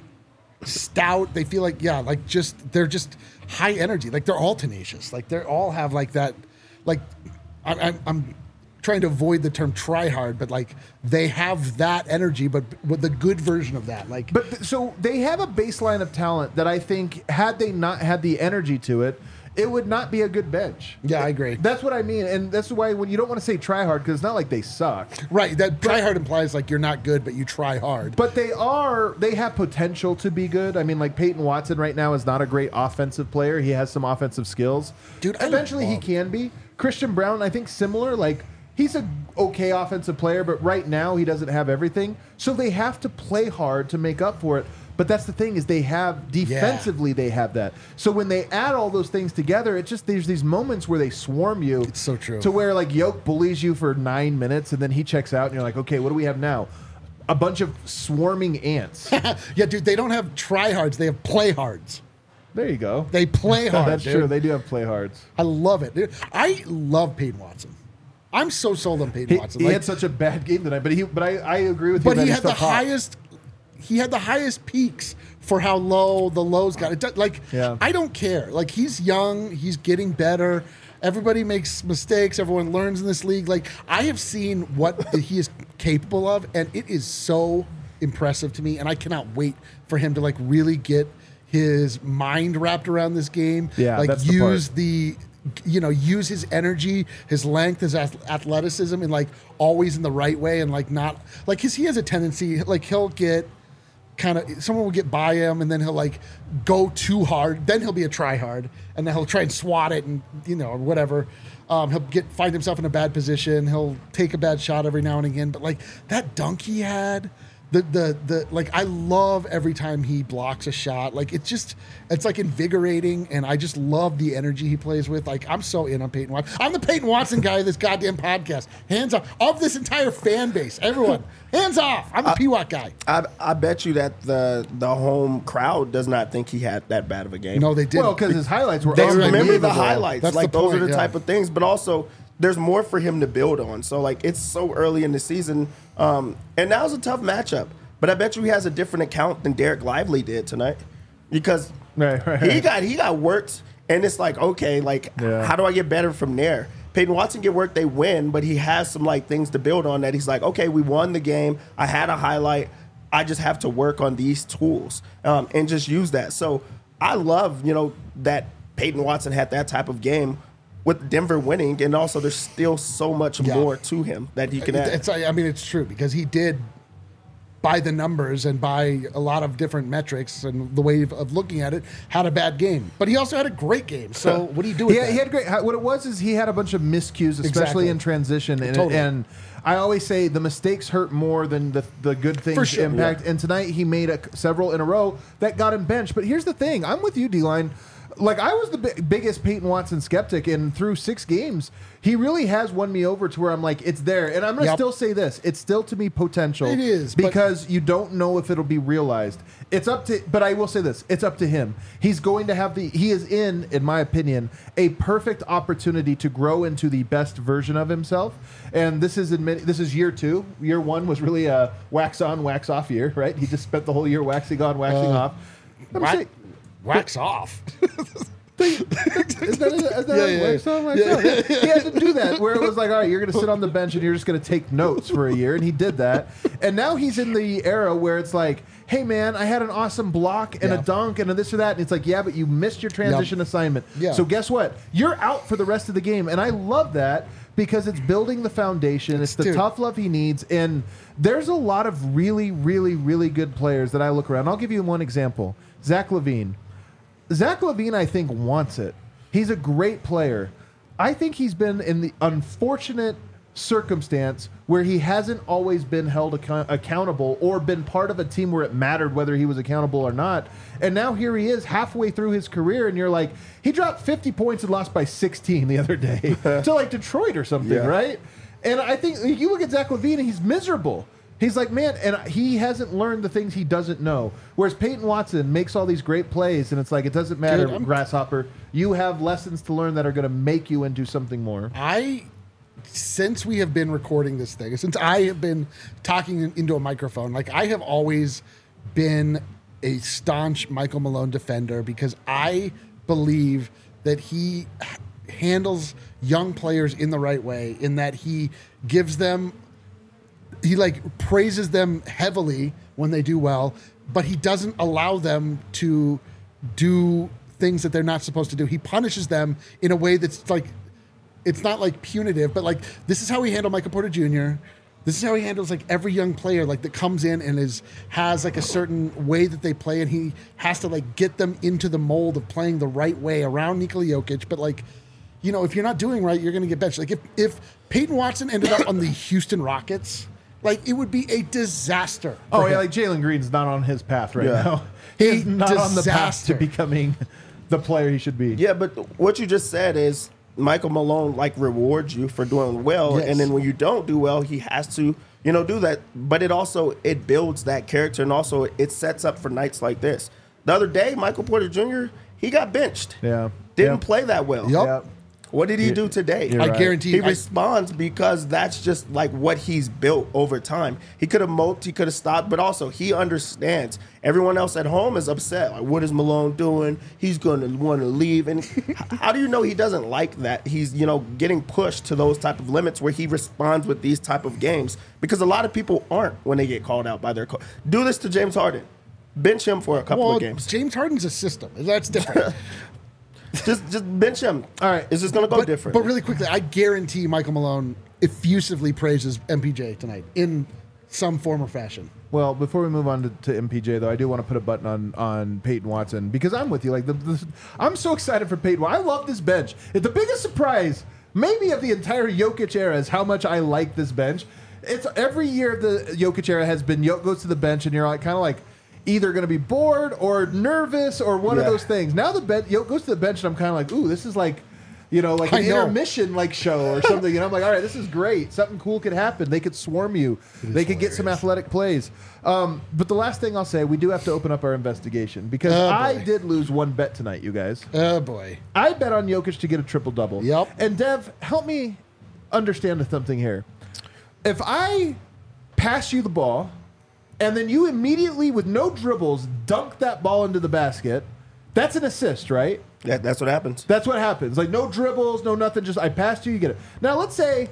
stout. They feel like, yeah, like just, they're just high energy. Like they're all tenacious. Like they all have like that, like I, I'm, I'm trying to avoid the term try hard, but like they have that energy, but with the good version of that. Like, But th- so they have a baseline of talent that I think had they not had the energy to it, it would not be a good bench. yeah, I agree. That's what I mean. And that's why when you don't want to say try hard, because it's not like they suck. Right. That try hard implies like you're not good, but you try hard. But they are, they have potential to be good. I mean, like Peyton Watson right now is not a great offensive player. He has some offensive skills. Dude, I eventually he love- can be. Christian Braun, I think similar. Like he's a okay offensive player, but right now he doesn't have everything. So they have to play hard to make up for it. But that's the thing is they have defensively they have that. So when they add all those things together, it just there's these moments where they swarm you. It's so true. To where like Yoke bullies you for nine minutes and then he checks out and you're like, okay, what do we have now? A bunch of swarming ants. Yeah, dude, they don't have try hards. They have play hards. There you go. They play hard. That's dude. true. They do have play hards. I love it. Dude, I love Peyton Watson. I'm so sold on Peyton He, Watson. he Like, had such a bad game tonight, but he but I, I agree with you. but that he he's had the still hot. highest. He had the highest peaks for how low the lows got. It does, like Yeah. I don't care. Like he's young. He's getting better. Everybody makes mistakes. Everyone learns in this league. Like I have seen what he is capable of, and it is so impressive to me. And I cannot wait for him to like really get his mind wrapped around this game. Yeah, like that's the use part. the, you know, use his energy, his length, his ath- athleticism, and like always in the right way, and like not like his he has a tendency like he'll get kind of someone will get by him and then he'll like go too hard, then he'll be a try hard, and then he'll try and swat it and you know or whatever. Um, he'll get find himself in a bad position. He'll take a bad shot every now and again, but like that dunk he had. The, the the like I love every time he blocks a shot. Like it's just it's like invigorating, and I just love the energy he plays with. Like I'm so in on Peyton Watson. I'm the Peyton Watson guy of this goddamn podcast. Hands off of this entire fan base. Everyone, hands off. I'm the P W A C guy. I, I bet you that the the home crowd does not think he had that bad of a game. No, they didn't. Well, because his highlights were They remember the unbelievable. highlights. That's like the those point, are the yeah. type of things. But also, there's more for him to build on. So like it's so early in the season, um, and now's a tough matchup. But I bet you he has a different account than Derek Lively did tonight, because Right, right, he right. got he got worked, and it's like okay, like Yeah. how do I get better from there? Peyton Watson get worked, they win, but he has some like things to build on that he's like, okay, we won the game. I had a highlight. I just have to work on these tools um, and just use that. So I love, you know, that Peyton Watson had that type of game with Denver winning, and also there's still so much Yeah. more to him that he can add. It's I mean it's true because he did by the numbers and by a lot of different metrics and the way of, of looking at it, had a bad game. But he also had a great game. So what do you do with Yeah, that? he had great. What it was is he had a bunch of miscues, especially Exactly. in transition, and, Totally. and I always say the mistakes hurt more than the the good things For sure, impact. yeah. And tonight he made a, several in a row that got him benched. But here's the thing: I'm with you, D-Line. Like, I was the bi- biggest Peyton Watson skeptic, and through six games, he really has won me over to where I'm like, it's there. And I'm going to Yep. still say this: it's still to me potential. It is, but- because you don't know if it'll be realized. It's up to, but I will say this: it's up to him. He's going to have the. He is in, in my opinion, a perfect opportunity to grow into the best version of himself. And this is admit, this is year two. Year one was really a wax on, wax off year, right? He just spent the whole year waxing on, waxing Uh, off. I'm Wax, saying- wax off. Is that, is that Yeah, yeah, wax on, wax off? He had to do that where it was like, all right, you're going to sit on the bench and you're just going to take notes for a year. And he did that. And now he's in the era where it's like, hey, man, I had an awesome block and Yeah. a dunk and a this or that. And it's like, yeah, but you missed your transition Yep. assignment. Yeah. So guess what? You're out for the rest of the game. And I love that because it's building the foundation. It's the Dude. tough love he needs. And there's a lot of really, really, really good players that I look around. I'll give you one example. Zach LaVine. Zach LaVine, I think, wants it. He's a great player. I think he's been in the unfortunate circumstance where he hasn't always been held account- accountable or been part of a team where it mattered whether he was accountable or not. And now here he is halfway through his career, and you're like, he dropped fifty points and lost by sixteen the other day to like Detroit or something, Yeah. right? And I think you look at Zach LaVine and he's miserable. He's like, man, and he hasn't learned the things he doesn't know. Whereas Peyton Watson makes all these great plays, and it's like, it doesn't matter, Dude, I'm- Grasshopper. You have lessons to learn that are going to make you into something more. I, since we have been recording this thing, since I have been talking in- into a microphone, like I have always been a staunch Michael Malone defender because I believe that he h- handles young players in the right way, in that he gives them, he like praises them heavily when they do well, but he doesn't allow them to do things that they're not supposed to do. He punishes them in a way that's like, it's not like punitive, but like this is how he handled Michael Porter Junior This is how he handles like every young player like that comes in and is has like a certain way that they play, and he has to like get them into the mold of playing the right way around Nikola Jokic. But like, you know, if you're not doing right, you're going to get benched. Like if if Peyton Watson ended up on the Houston Rockets, like it would be a disaster. for Oh, him. yeah, like Jalen Green's not on his path right Yeah. now. A He's not on the path to disaster. becoming the player he should be. Yeah, but what you just said is Michael Malone like rewards you for doing well, Yes. and then when you don't do well, he has to, you know, do that. But it also it builds that character, and also it sets up for nights like this. The other day, Michael Porter Junior he got benched. Yeah. Didn't Yeah. play that well. Yup. Yeah. What did he do today? you're I right. guarantee He I- responds because that's just like what he's built over time. He could have moped, he could have stopped, but also he understands. Everyone else at home is upset. Like, what is Malone doing? He's going to want to leave. And h- how do you know he doesn't like that? He's, you know, getting pushed to those type of limits where he responds with these type of games, because a lot of people aren't when they get called out by their coach. Do this to James Harden. Bench him for a couple well, of games. James Harden's a system. That's different. Just just bench him. All right. It's just going to go but, different. but really quickly, I guarantee Michael Malone effusively praises M P J tonight in some form or fashion. Well, before we move on to, to M P J, though, I do want to put a button on on Peyton Watson because I'm with you. Like, the, the, I'm so excited for Peyton. I love this bench. The biggest surprise, maybe of the entire Jokic era, is how much I like this bench. It's every year the Jokic era has been Jokic goes to the bench, and you're like kind of like either going to be bored or nervous or one of Yeah. those things. Now the bench Jokic goes to the bench, and I'm kind of like, ooh, this is like. You know, like I an know. intermission like show or something. And I'm like, all right, this is great. Something cool could happen. They could swarm you. They could get some hilarious. athletic plays. Um, but the last thing I'll say, we do have to open up our investigation because Oh, I boy. did lose one bet tonight, you guys. Oh boy. I bet on Jokic to get a triple double. Yep. And Dev, help me understand something here. If I pass you the ball and then you immediately, with no dribbles, dunk that ball into the basket, that's an assist, right? That, that's what happens. That's what happens. Like no dribbles, no nothing. Just I passed you, you get it. Now let's say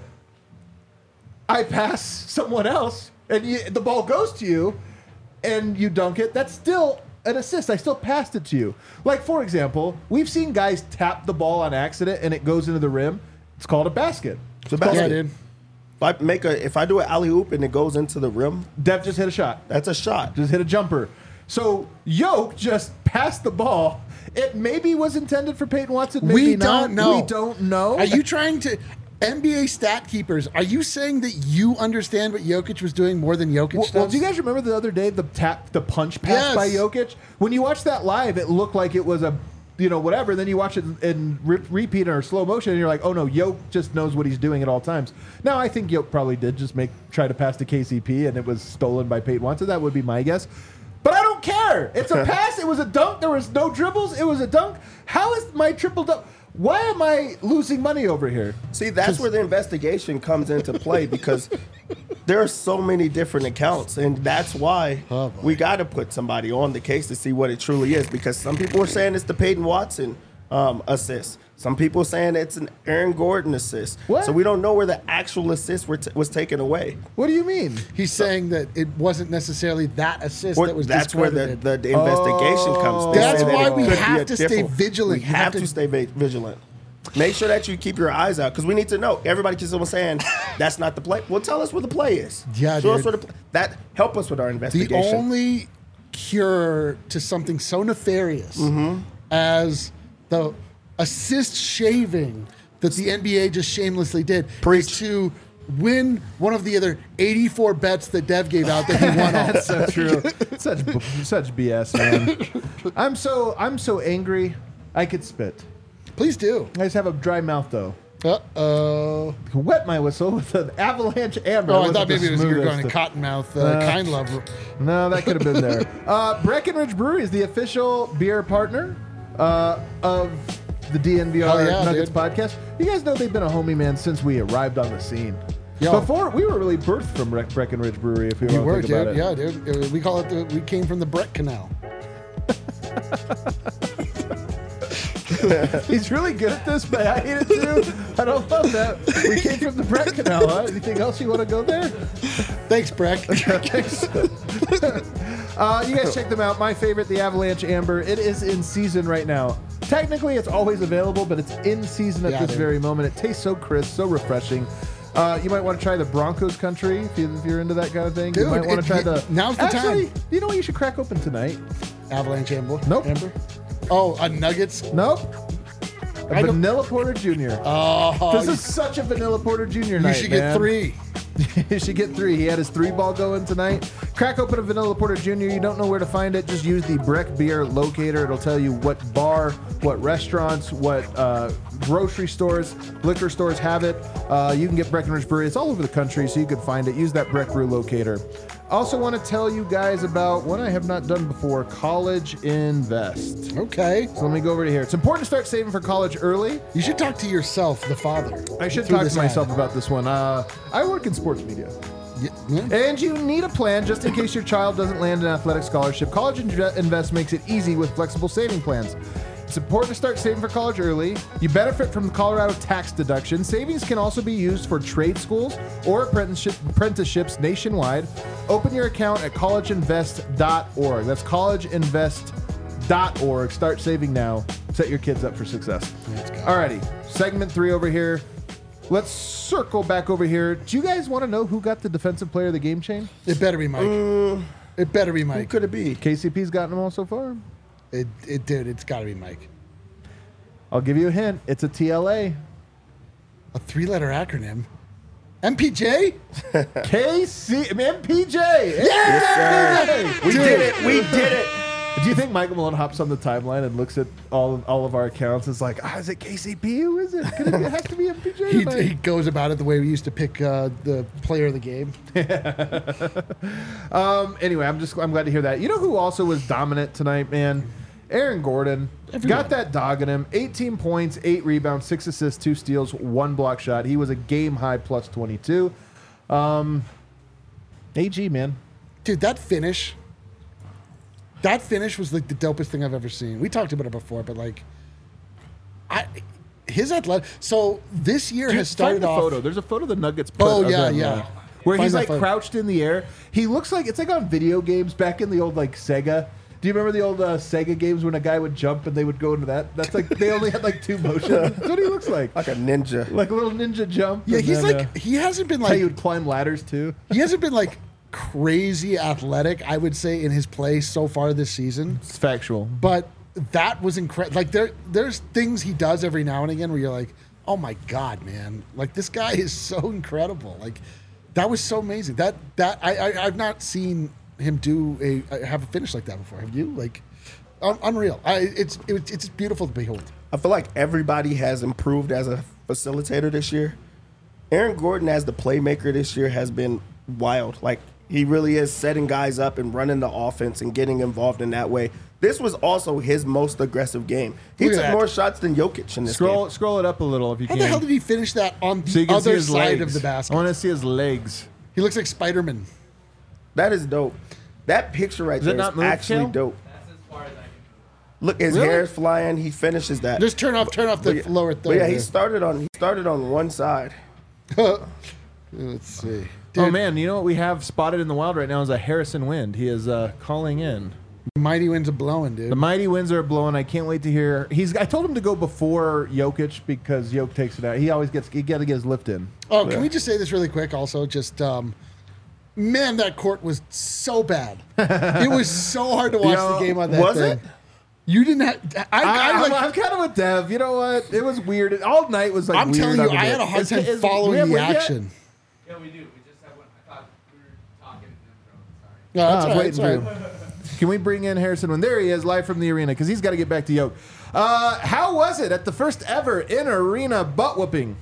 I pass someone else and you, the ball goes to you, and you dunk it. That's still an assist. I still passed it to you. Like for example, we've seen guys tap the ball on accident and it goes into the rim. It's called a basket. It's a Yeah, basket. dude. I make a if I do an alley oop and it goes into the rim, Dev just hit a shot. that's a shot. Just hit a jumper. So Yoke just passed the ball. It maybe was intended for Peyton Watson. Maybe We not. don't know. We don't know. Are you trying to N B A stat keepers? Are you saying that you understand what Jokic was doing more than Jokic Well, does? well, do you guys remember the other day the tap, the punch pass Yes. by Jokic? When you watch that live, it looked like it was a, you know, whatever. Then you watch it in re- repeat or slow motion, and you're like, oh no, Jokic just knows what he's doing at all times. Now, I think Jokic probably did just make try to pass to K C P, and it was stolen by Peyton Watson. That would be my guess. But I don't care. It's a pass. It was a dunk. There was no dribbles. It was a dunk. How is my triple dunk? Why am I losing money over here? See, that's where the investigation comes into play because there are so many different accounts, and that's why Oh, boy. we got to put somebody on the case to see what it truly is. Because some people are saying it's the Peyton Watson um, assist. Some people are saying it's an Aaron Gordon assist. What? So we don't know where the actual assist were t- was taken away. What do you mean? He's saying that it wasn't necessarily that assist Or that was that's where the, discredited. the, the investigation comes. They That's say that why it we could be have a to stay different- vigilant. We You have have to, to- stay va- vigilant. Make sure that you keep your eyes out because we need to know. Everybody keeps on saying that's not the play. Well, tell us where the play is. Yeah, Show us dude. where the pl- that help us with our The investigation. only cure to something so nefarious Mm-hmm. as the assist shaving that the N B A just shamelessly did Preach. is to win one of the other eighty-four bets that Dev gave out that he won on. So true. such b- such B S, man. I'm so I'm so angry. I could spit. Please do. I just have a dry mouth though. Uh-oh. Wet my whistle with an avalanche amber. Oh, I wasn't thought the maybe it was you were smoothest going to of- Cottonmouth, uh, Uh, Kind Love. No, that could have been there. Uh, Breckenridge Brewery is the official beer partner uh, of the D N V R Hell yeah, Nuggets dude. podcast. You guys know they've been a homie, man, since we arrived on the scene. Yo. Before we were really birthed from Bre- Breckenridge Brewery, if you You want were, to think dude. about it. Yeah, dude. Uh, We call it the, we came from the Brett Canal. He's really good at this, but I hate it too. I don't love that. We came from the Brett Canal, huh? Anything else you want to go there? Thanks, Breck. Uh, you guys check them out. My favorite, the Avalanche Amber. It is in season right now. Technically, it's always available, but it's in season at Yeah, this dude. very moment. It tastes so crisp, so refreshing. Uh, you might want to try the Broncos Country if, you, if you're into that kind of thing. Dude, you might want it- to try it- the. now's the Actually, time. you know what you should crack open tonight? Avalanche Amber. Nope. Amber. Oh, a Nuggets. Nope. A I don't- Vanilla Porter Junior Oh, This is such a Vanilla Porter Junior you night. should get man. three. You should get three. He had his three ball going tonight. Crack open a Vanilla Porter Junior You don't know where to find it. Just use the Breck Beer Locator. It'll tell you what bar, what restaurants, what uh, grocery stores, liquor stores have it. Uh, you can get Breckenridge Brewery. It's all over the country, so you can find it. Use that Breck Brew Locator. Also want to tell you guys about what I have not done before, College Invest. Okay. So let me go over to here. It's important to start saving for college early. You should talk to yourself, the father. I should through talk this to myself ad. about this one. Uh, I work in sports media. Yeah, yeah. And you need a plan just in case your child doesn't land an athletic scholarship. College Invest makes it easy with flexible saving plans. It's important to start saving for college early. You benefit from the Colorado tax deduction. Savings can also be used for trade schools or apprenticeship, apprenticeships nationwide. Open your account at college invest dot org. That's college invest dot org. Start saving now. Set your kids up for success. Alrighty, segment three over here. Let's circle back over here. Do you guys want to know who got the defensive player of the game chain? It better be Mike. it better be Who Mike. could it be? K C P's gotten them all so far. It, it, dude, it's got to be Mike. I'll give you a hint. It's a T L A. A three-letter acronym. M P J? K C M P J. Yes, sir. We did it. We did it. Do you think Michael Malone hops on the timeline and looks at all of, all of our accounts? It's like, ah, is it K C P? Who is it? Could it, it has to be M P J. He, tonight. he goes about it the way we used to pick uh, the player of the game. Um. Anyway, I'm just I'm glad to hear that. You know who also was dominant tonight, man? Aaron Gordon. Everyone. Got that dog in him. eighteen points, eight rebounds, six assists, two steals, one block shot. He was a game high plus twenty-two. Um. A G, man. Dude, that finish, that finish was like the dopest thing I've ever seen. We talked about it before, but like, I, his athletic. So this year has started Find the off. photo. There's a photo the Nuggets put Oh, of yeah, them, yeah. uh, where Find he's that like photo. crouched in the air. He looks like it's like on video games back in the old like Sega. Do you remember the old uh, Sega games when a guy would jump and they would go into that? That's like they only had like two motions. That's what he looks like. Like a ninja. Like a little ninja jump. Yeah, and he's then, like uh, he hasn't been how like you would climb ladders too. he hasn't been like crazy athletic, I would say, in his play so far this season. It's factual. But that was incredible. Like there, there's things he does every now and again where you're like, oh my god, man! Like this guy is so incredible. Like that was so amazing. That that I, I I've not seen him do a have a finish like that before. Have you? Like un- unreal. I it's it, it's beautiful to behold. I feel like everybody has improved as a facilitator this year. Aaron Gordon as the playmaker this year has been wild. Like he really is setting guys up and running the offense and getting involved in that way. This was also his most aggressive game. He Look at took that. more shots than Jokic in this Scroll game. scroll it up a little if you How can. the hell did he finish that on the so you can see other his side legs. of the basket? I want to see his legs. He looks like Spider-Man. That is dope. That picture right Does it there is not move, actually Kale? dope. That's as far as I can Look, his Really? hair is flying. He finishes that. Just turn off, turn off the But yeah- lower But third. yeah, he there. started on he started on one side. Let's see. Oh Dude, man, you know what we have spotted in the wild right now is a Harrison Wind. He is uh, calling in. mighty winds are blowing, dude. The mighty winds are blowing. I can't wait to hear. He's. I told him to go before Jokic because Jokic takes it out. He always gets. He got to get his lift in. Oh, can we just say this really quick? Also, just um, man, that court was so bad. It was so hard to watch know, the game on that was thing. it? You didn't have. I, I, I, like. am kind of with Dev. You know what? It was weird. All night was like. I'm weird telling you, over I there. had a hard Is- time is- we following have the wind yet? action. Yeah, we do. We just have one. I thought we were talking and then throwing. Sorry. No, that's Ah, all right. waiting That's all for right. you. Can we bring in Harrison Wind? There he is, live from the arena, because he's got to get back to Yoke. Uh, how was it at the first ever in arena butt whooping?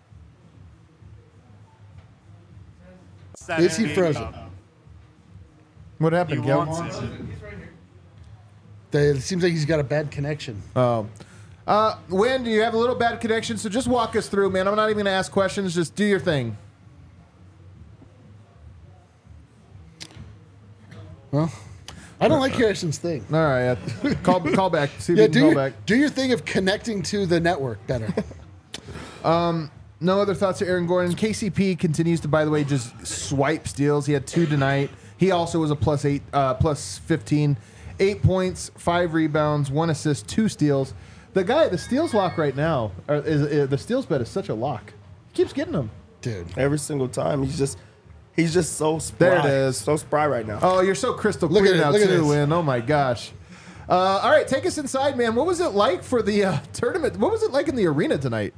That Is he N B A frozen? Cup. What He happened, Kel? wants it. They- It seems like he's got a bad connection. Oh. Uh, Wynn, you have a little bad connection, so just walk us through, man. I'm not even going to ask questions. Just do your thing. Well, I don't like Harrison's thing. All right. uh, call, call back. See if Yeah, you can do call your, back. do your thing of connecting to the network better. No other thoughts to Aaron Gordon. K C P continues to, by the way, just swipe steals. He had two tonight. He also was a plus eight, uh, plus fifteen, eight points, five rebounds, one assist, two steals. The guy, the steals lock right now, or is, is the steals bet is such a lock. He keeps getting them. Dude. Every single time. He's just he's just so spry. There it is. So spry right now. Oh, you're so crystal Look clear at it, now look at too, this. Win. Oh my gosh. Uh, all right, take us inside, man. What was it like for the uh, tournament? What was it like in the arena tonight?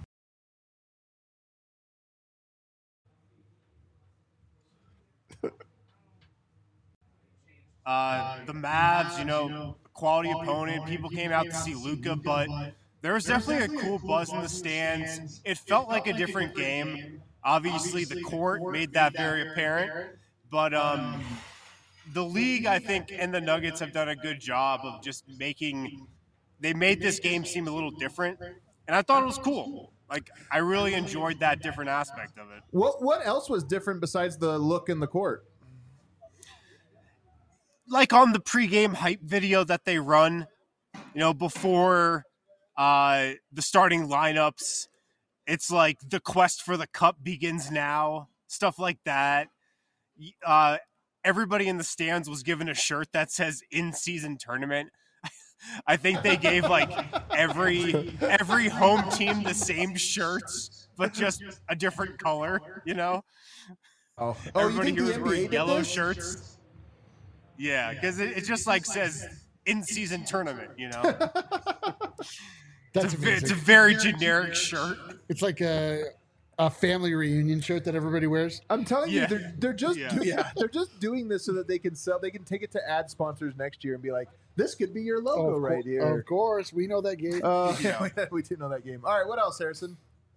Uh, the Mavs, you know, quality opponent. People came out to see Luka, but there was definitely a cool buzz in the stands. It felt like a different game. Obviously, the court made that very apparent, but um, the league, I think, and the Nuggets have done a good job of just making. They made this game seem a little different, and I thought it was cool. Like, I really enjoyed that different aspect of it. What What else was different besides the look in the court? Like on the pregame hype video that they run, you know, before uh, the starting lineups, it's like the quest for the cup begins now, stuff like that. Uh, everybody in the stands was given a shirt that says in-season tournament. I think they gave like every every home team the same shirts, but just a different color, you know? Oh, oh you Everybody think here the was N B A wearing did yellow this? shirts. Yeah, because it, it just like says in-season tournament, you know? That's It's a, ve- it's a amazing. very generic shirt. It's like a, a family reunion shirt that everybody wears. I'm telling Yeah. you, they're they're just Yeah. do- yeah, they're just doing this so that they can sell. They can take it to ad sponsors next year and be like, "This could be your logo of, right cour- here." Of course, we know that game. Uh, we, we do know that game. All right, what else, Harrison?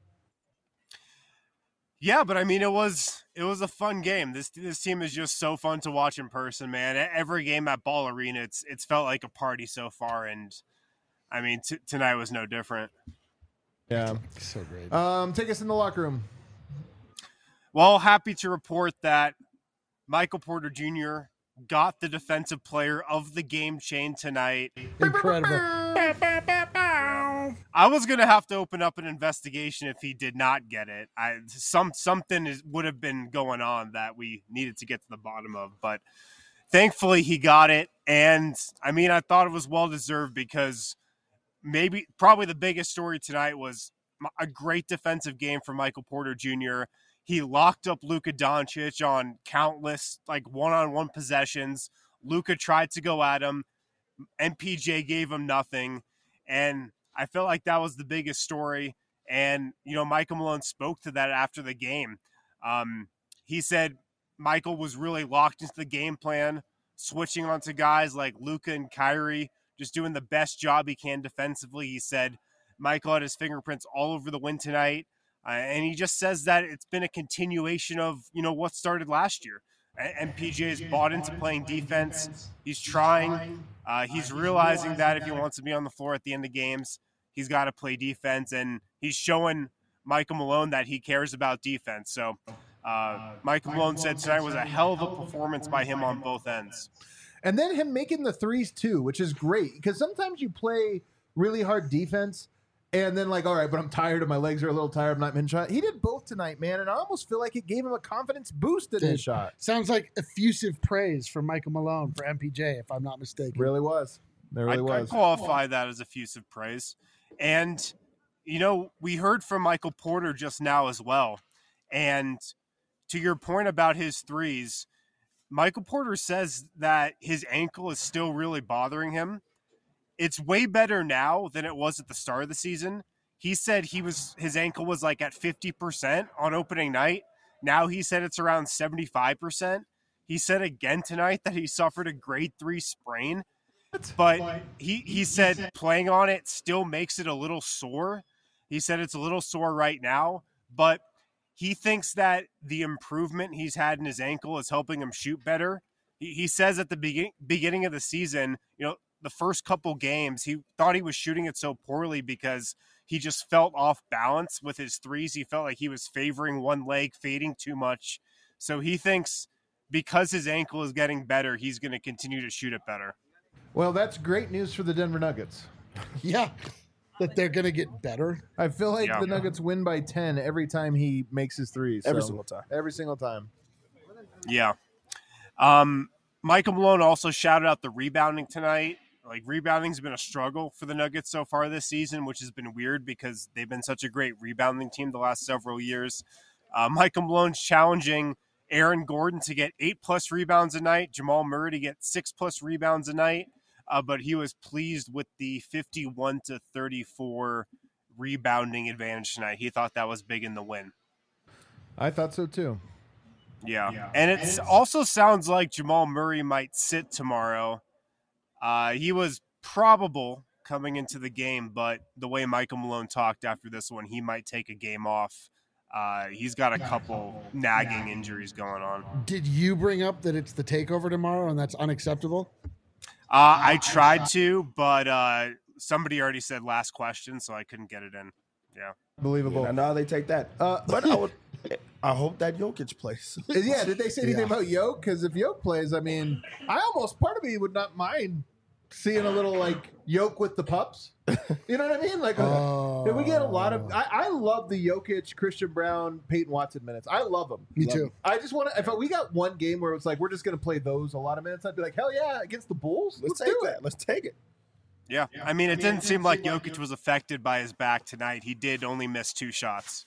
Yeah, but I mean, it was it was a fun game. This this team is just so fun to watch in person, man. E- Every game at Ball Arena, it's it's felt like a party so far, and I mean, t- tonight was no different. Yeah. so great. Um, take us in the locker room. Well, happy to report that Michael Porter Junior got the defensive player of the game chain tonight. Incredible. I was gonna have to open up an investigation if he did not get it. I some something is, would have been going on that we needed to get to the bottom of. But thankfully he got it. And I mean, I thought it was well deserved because maybe probably the biggest story tonight was a great defensive game from Michael Porter Junior He locked up Luka Doncic on countless like one-on-one possessions. Luka tried to go at him. M P J gave him nothing. And I felt like that was the biggest story. And, you know, Michael Malone spoke to that after the game. Um, he said Michael was really locked into the game plan, switching onto guys like Luka and Kyrie, just doing the best job he can defensively. He said Michael had his fingerprints all over the win tonight. Uh, and he just says that it's been a continuation of, you know, what started last year. M P J has bought into playing defense. He's trying. Uh, he's realizing that if he wants to be on the floor at the end of games, he's got to play defense. And he's showing Michael Malone that he cares about defense. So uh, Michael Malone said tonight was a hell of a performance by him on both ends. And then him making the threes too, which is great because sometimes you play really hard defense and then like, all right, but I'm tired and my legs are a little tired. I'm not in shot. He did both tonight, man. And I almost feel like it gave him a confidence boost in Dude, his shot. Sounds like effusive praise from Michael Malone for M P J, if I'm not mistaken. Really was. There really I, was. I qualify that as effusive praise. And, you know, we heard from Michael Porter just now as well. And to your point about his threes, Michael Porter says that his ankle is still really bothering him. It's way better now than it was at the start of the season. He said he was his ankle was like at fifty percent on opening night. Now he said it's around seventy-five percent. He said again tonight that he suffered a grade three sprain. But he, he said playing on it still makes it a little sore. He said it's a little sore right now, but he thinks that the improvement he's had in his ankle is helping him shoot better. He, he says at the begin, beginning of the season, you know, the first couple games, he thought he was shooting it so poorly because he just felt off balance with his threes. He felt like he was favoring one leg, fading too much. So he thinks because his ankle is getting better, he's going to continue to shoot it better. Well, that's great news for the Denver Nuggets. Yeah, that they're going to get better. I feel like Yeah. the Nuggets win by ten every time he makes his threes. Every so- single time. Every single time. Yeah. Um, Michael Malone also shouted out the rebounding tonight. Like, rebounding's been a struggle for the Nuggets so far this season, which has been weird because they've been such a great rebounding team the last several years. Uh, Michael Malone's challenging Aaron Gordon to get eight-plus rebounds a night, Jamal Murray to get six-plus rebounds a night, uh, but he was pleased with the fifty-one to thirty-four rebounding advantage tonight. He thought that was big in the win. I thought so too. Yeah. yeah. And it also sounds like Jamal Murray might sit tomorrow. Uh, he was probable coming into the game, but the way Michael Malone talked after this one, he might take a game off. Uh, he's got a couple nagging injuries going on. Did you bring up that it's the takeover tomorrow and that's unacceptable? Uh, I tried to, but uh, somebody already said last question, so I couldn't get it in. Yeah. Believable. And now they take that. Uh, but I would, I hope that Jokic plays. Yeah, did they say anything Yeah. about Yoke? Because if Yoke plays, I mean, I almost, part of me would not mind seeing a little, like, Yoke with the pups. You know what I mean? Like, Oh. uh, we get a lot of, I, I love the Jokic, Christian Brown, Peyton Watson minutes. I love them. Me Love too. 'em. I just want to, if we got one game where it's like, we're just going to play those a lot of minutes, I'd be like, hell yeah, against the Bulls? Let's, Let's, take do that. it. Let's take it. Yeah. I mean, it didn't seem like Jokic was affected by his back tonight. He did only miss two shots.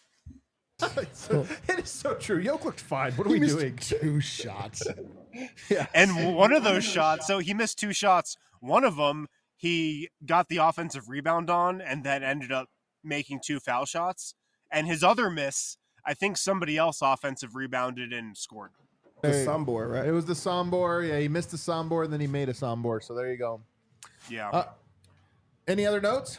So- it is so true. Yoke looked fine. What are He we missed doing? two shots. Yeah. And one of those shots, so he missed two shots. One of them, he got the offensive rebound on and then ended up making two foul shots. And his other miss, I think somebody else offensive rebounded and scored. The Hey, Sombor, right? It was the Sombor. Yeah, he missed the Sombor, and then he made a Sombor. So there you go. Yeah. Uh, any other notes?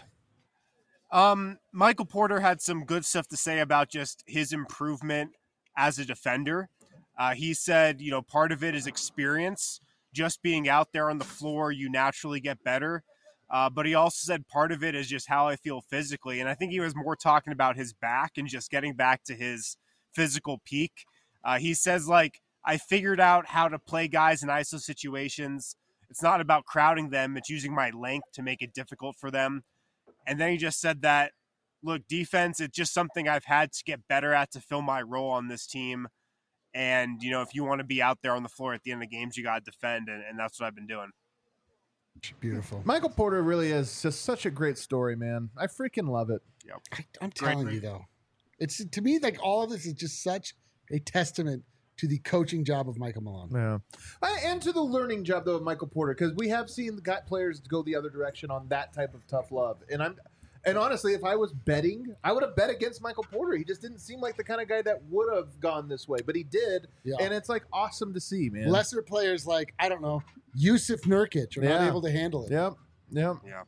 Um, Michael Porter had some good stuff to say about just his improvement as a defender. Uh, he said, you know, part of it is experience. Just being out there on the floor, you naturally get better. Uh, but he also said part of it is just how I feel physically. And I think he was more talking about his back and just getting back to his physical peak. Uh, he says, like, I figured out how to play guys in I S O situations. It's not about crowding them. It's using my length to make it difficult for them. And then he just said that, look, defense, it's just something I've had to get better at to fill my role on this team. And, you know, if you want to be out there on the floor at the end of the games, you got to defend. And, and that's what I've been doing. Beautiful. Michael Porter really is just such a great story, man. I freaking love it. Yep. I, I'm telling you, though, it's to me like all of this is just such a testament to the coaching job of Michael Malone. Yeah, I, and to the learning job though of Michael Porter, because we have seen the got players go the other direction on that type of tough love. And I'm, and honestly, if I was betting, I would have bet against Michael Porter. He just didn't seem like the kind of guy that would have gone this way, but he did, Yeah. and it's like awesome to see, man. Lesser players like I don't know Yusuf Nurkic are not Yeah. able to handle it. Yep, yep. Yeah.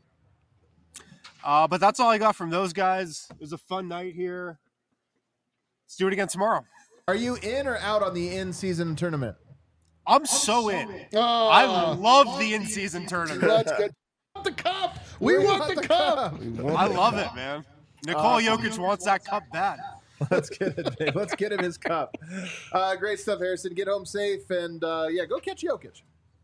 Uh, but that's all I got from those guys. It was a fun night here. Let's do it again tomorrow. Are you in or out on the in-season tournament? I'm so in. Oh, I love the in-season tournament. Let's get the cup. We, want, the, cup. I love it, man. Nikola Jokic wants that cup bad. Let's get it, Dave. Let's get him his cup. Uh, great stuff, Harrison. Get home safe, and uh, yeah, go catch Jokic.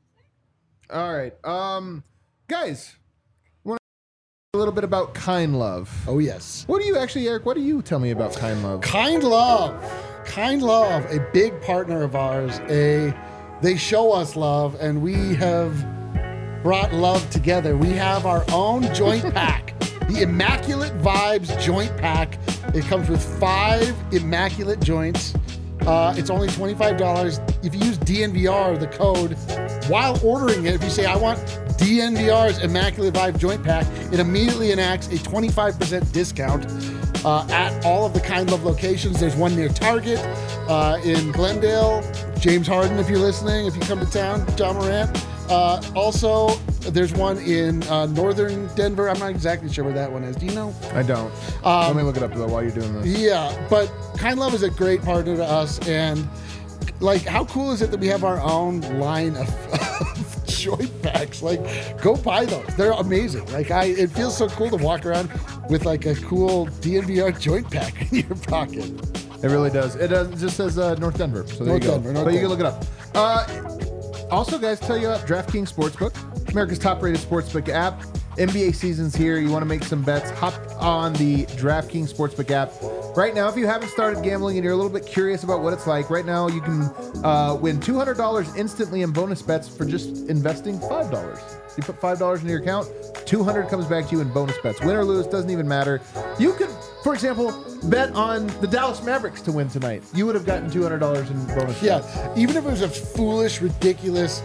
All right, um, guys. Want to a little bit about Kind Love? Oh yes. What do you actually, Eric? What do you tell me about Kind Love? Kind Love. Kind Love, a big partner of ours. A they show us love, and we have brought love together. We have our own joint pack, the Immaculate Vibes joint pack. It comes with five immaculate joints. Uh, it's only twenty-five dollars. If you use D N V R, the code, while ordering it, if you say, I want D N V R's Immaculate Vibe Joint Pack, it immediately enacts a twenty-five percent discount uh, at all of the Kind Love locations. There's one near Target, uh, in Glendale, James Harden, if you're listening, if you come to town, John Morant. Uh, also, there's one in uh, northern Denver. I'm not exactly sure where that one is. Do you know? I don't. Let me look it up though while you're doing this. Yeah, but Kind Love is a great partner to us, and like, how cool is it that we have our own line of, of joint packs? Like, go buy those; they're amazing. Like, I, it feels so cool to walk around with like a cool D N V R joint pack in your pocket. It really does. It, does, it just says uh, North Denver. So there North you go. Denver, North but you can Denver. look it up. Uh, also, guys, tell you about DraftKings Sportsbook, America's top-rated sportsbook app. N B A season's here. You want to make some bets? Hop on the DraftKings Sportsbook app. Right now, if you haven't started gambling and you're a little bit curious about what it's like, right now you can uh, win two hundred dollars instantly in bonus bets for just investing five dollars. You put five dollars into your account, two hundred dollars comes back to you in bonus bets. Win or lose, doesn't even matter. You could, for example, bet on the Dallas Mavericks to win tonight. You would have gotten two hundred dollars in bonus Yeah, bets. even if it was a foolish, ridiculous,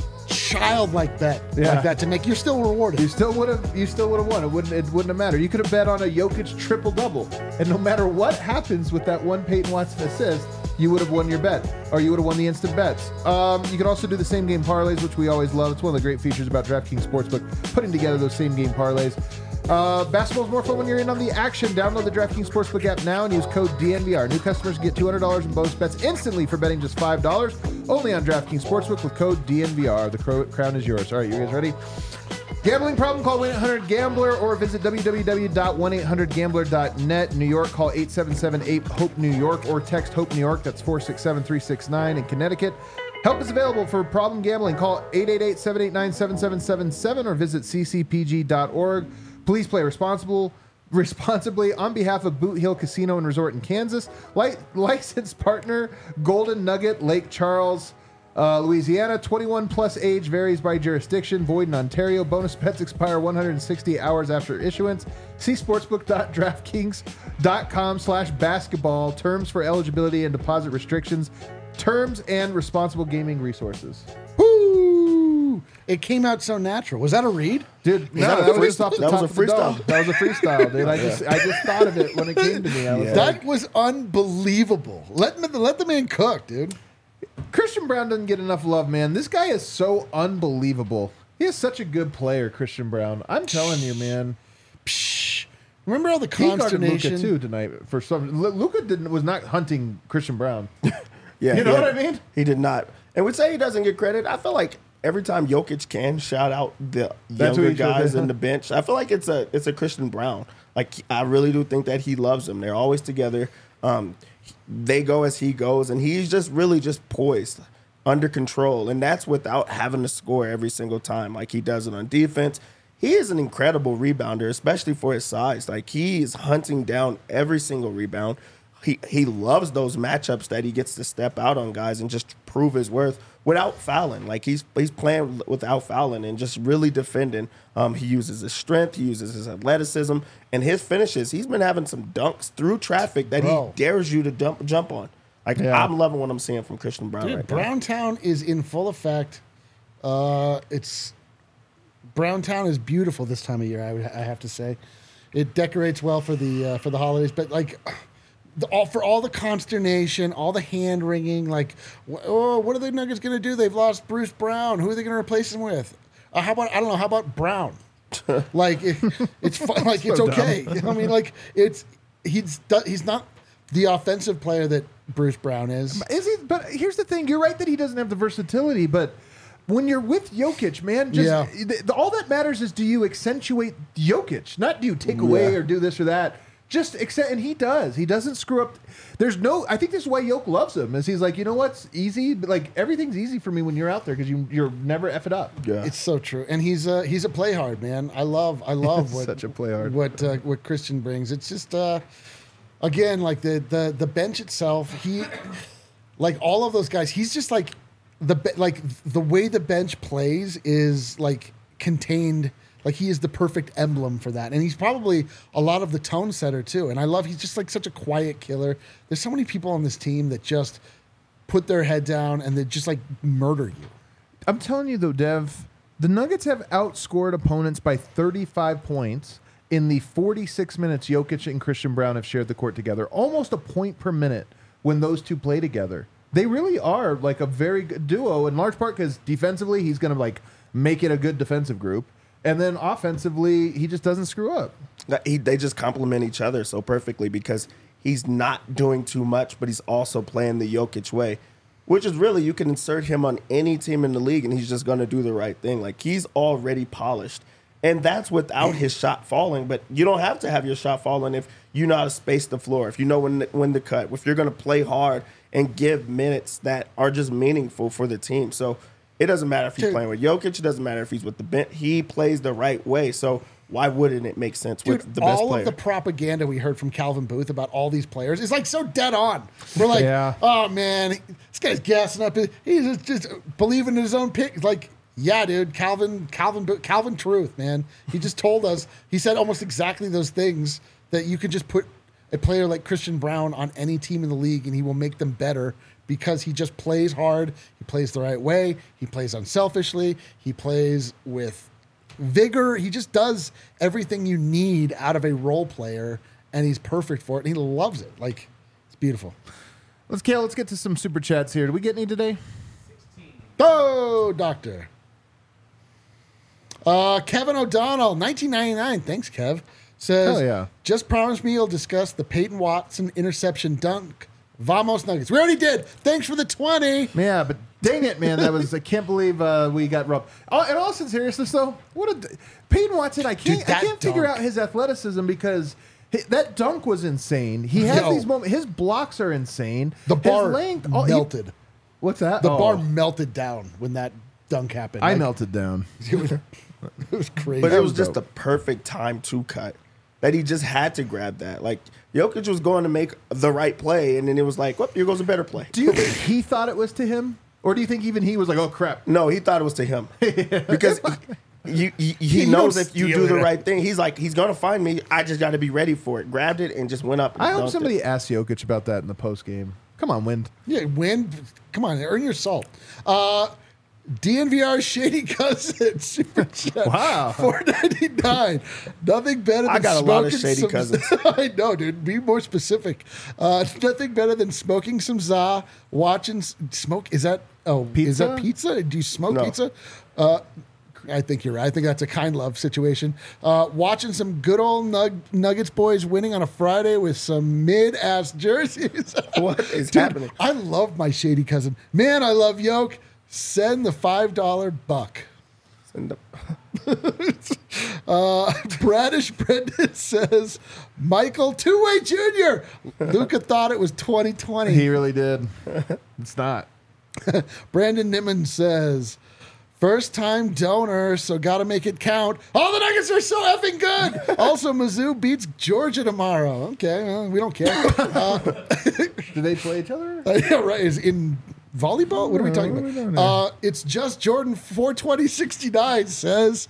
childlike bet Yeah. like that to make, you're still rewarded. You still would have. You still would have won. It wouldn't. It wouldn't have mattered. You could have bet on a Jokic triple double, and no matter what happens with that one Peyton Watson assist, you would have won your bet, or you would have won the instant bets. Um, you can also do the same game parlays, which we always love. It's one of the great features about DraftKings Sportsbook, putting together those same game parlays. Uh, basketball's more fun when you're in on the action. Download the DraftKings Sportsbook app now and use code D N V R. New customers get two hundred dollars in bonus bets instantly for betting just five dollars. Only on DraftKings Sportsbook with code D N V R. The cro- crown is yours. All right, you guys ready? Gambling problem? Call one eight hundred gambler or visit w w w dot one eight hundred gambler dot net. New York, call eight seven seven eight hope New York or text HOPE New York. That's four six seven three six nine. In Connecticut, help is available for problem gambling. Call eight eight eight seven eight nine seven seven seven seven or visit c c p g dot org. Please play responsible, responsibly on behalf of Boot Hill Casino and Resort in Kansas. Li- licensed partner, Golden Nugget, Lake Charles, uh, Louisiana. twenty-one plus age varies by jurisdiction. Void in Ontario. Bonus bets expire one hundred sixty hours after issuance. See sportsbook dot draftkings dot com slash basketball. Terms for eligibility and deposit restrictions. Terms and responsible gaming resources. Woo! It came out so natural. Was that a read? Dude, no, that a that, was free- just off the that was top a of the dome. freestyle? That was a freestyle, dude. I just, I just thought of it when it came to me. I was Yeah. like, That was unbelievable. Let me, let the man cook, dude. Christian Brown doesn't get enough love, man. This guy is so unbelievable. He is such a good player, Christian Brown. I'm telling you, man. Psh. Remember all the He guarded Luka consternation? too tonight. For some, Luka didn't was not hunting Christian Brown. Yeah, You know he- what I mean? He did not. And we say he doesn't get credit. I feel like every time Jokic can shout out the That's what younger he should guys do. in the bench, I feel like it's a it's a Christian Brown. Like, I really do think that he loves them. They're always together. Um, they go as he goes, and he's just really just poised, under control, and that's without having to score every single time like he does it on defense. He is an incredible rebounder, especially for his size. Like, he is hunting down every single rebound, he he loves those matchups that he gets to step out on guys and just prove his worth without fouling. Like he's he's playing without fouling and just really defending. Um, he uses his strength, he uses his athleticism, and his finishes. He's been having some dunks through traffic that Bro. he dares you to dump, jump on. Like Yeah. I'm loving what I'm seeing from Christian Brown Dude, right now. Browntown is in full effect. Uh, it's Browntown is beautiful this time of year. I would I have to say, it decorates well for the uh, for the holidays. But like, the, all for all the consternation, all the hand wringing. Like, wh- oh, what are the Nuggets going to do? They've lost Bruce Brown. Who are they going to replace him with? Uh, how about I don't know. How about Brown? Like it, it's fun, like it's okay. I mean, like it's he's do- he's not the offensive player that Bruce Brown is. Is he? But here's the thing. You're right that he doesn't have the versatility, but when you're with Jokic, man, just Yeah. th- all that matters is do you accentuate Jokic, not do you take away Yeah. or do this or that. Just accept, and he does. He doesn't screw up. There's no. I think this is why Jokic loves him. Is he's like, you know what's easy? But like everything's easy for me when you're out there because you you're never F it up. Yeah. It's so true, and he's a he's a play hard man. I love I love what Such a play hard. what uh, what Christian brings. It's just uh, again like the the the bench itself. He like all of those guys. He's just like the be- like the way the bench plays is like contained. Like he is the perfect emblem for that, and he's probably a lot of the tone setter too. And I love he's just like such a quiet killer. There's so many people on this team that just put their head down and they just like murder you. I'm telling you though, Dev, the Nuggets have outscored opponents by thirty-five points in the forty-six minutes Jokic and Christian Brown have shared the court together. Almost a point per minute when those two play together. They really are like a very good duo, in large part because defensively he's going to like make it a good defensive group, and then offensively he just doesn't screw up. That he, they just complement each other so perfectly because he's not doing too much, but he's also playing the Jokic way, which is really you can insert him on any team in the league and he's just going to do the right thing. Like he's already polished, and that's without his shot falling. But you don't have to have your shot falling if you know how to space the floor, if you know when when to cut, if you're going to play hard and give minutes that are just meaningful for the team. So it doesn't matter if he's Dude. playing with Jokic. It doesn't matter if he's with the bench. He plays the right way. So why wouldn't it make sense Dude, with the best all player? of the propaganda we heard from Calvin Booth about all these players is like so dead on. We're like, Yeah. oh man, this guy's gassing up. He's just, just believing in his own pick. Like, yeah, dude, Calvin, Calvin, Bo- Calvin Truth, man. He just told us. He said almost exactly those things that you could just put a player like Christian Brown on any team in the league and he will make them better because he just plays hard. He plays the right way. He plays unselfishly. He plays with vigor. He just does everything you need out of a role player, and he's perfect for it. And he loves it. Like, it's beautiful. Let's Kale, let's get to some super chats here. Did we get any today? Oh, doctor. Uh, Kevin O'Donnell, nineteen ninety-nine. Thanks, Kev. Says, Hell yeah. just promise me you'll discuss the Peyton Watson interception dunk. Vamos Nuggets. We already did. Thanks for the twenty. Yeah, but dang it, man, that was I can't believe uh, we got robbed. Oh, in all seriousness, though, what a Peyton Watson. I can't Dude, that I can't figure dunk. out his athleticism because hi- that dunk was insane. He has Yo. these moments. His blocks are insane. The His bar length, all- he- melted. what's that? The Oh, bar melted down when that dunk happened. I Like, melted down. It was, it was crazy. But it was was just dope. the perfect time to cut. That he just had to grab that. Like Jokic was going to make the right play, and then it was like, "Whoop! Here goes a better play." Do you think he thought it was to him, or do you think even he was like, "Oh crap"? No, he thought it was to him because he, you, you, he You knows don't if you steal do the it. right thing, he's like, he's gonna find me. I just got to be ready for it. Grabbed it and just went up. And I hope dunked somebody it. asked Jokic about that in the post game. Come on, Wind. Yeah, win. Come on, earn your salt. Uh, D N V R Shady Cousin Super Chat. Wow. four ninety-nine. Nothing better than I got a lot of smoking shady some- cousins. I know, dude. Be more specific. Uh, nothing better than smoking some za, watching s- smoke. Is that oh? Is that Pizza? pizza? Do you smoke No. pizza? Uh, I think you're right. I think that's a kind love situation. Uh, watching some good old nug- Nuggets boys winning on a Friday with some mid-ass jerseys. What is Dude, happening? I love my shady cousin. Man, I love Yoke. Send the five dollar buck. And the- Uh, Bradish Brendan says, Michael Two-Way Junior Luca thought it was twenty twenty. He really did. It's not. Brandon Niman says, First time donor, so got to make it count. All the Nuggets are so effing good. Also, Mizzou beats Georgia tomorrow. Okay, well, we don't care. Uh, Do they play each other? yeah, right. Is in volleyball? What are we talking What are we doing about? here? Uh, it's just Jordan four twenty sixty-nine says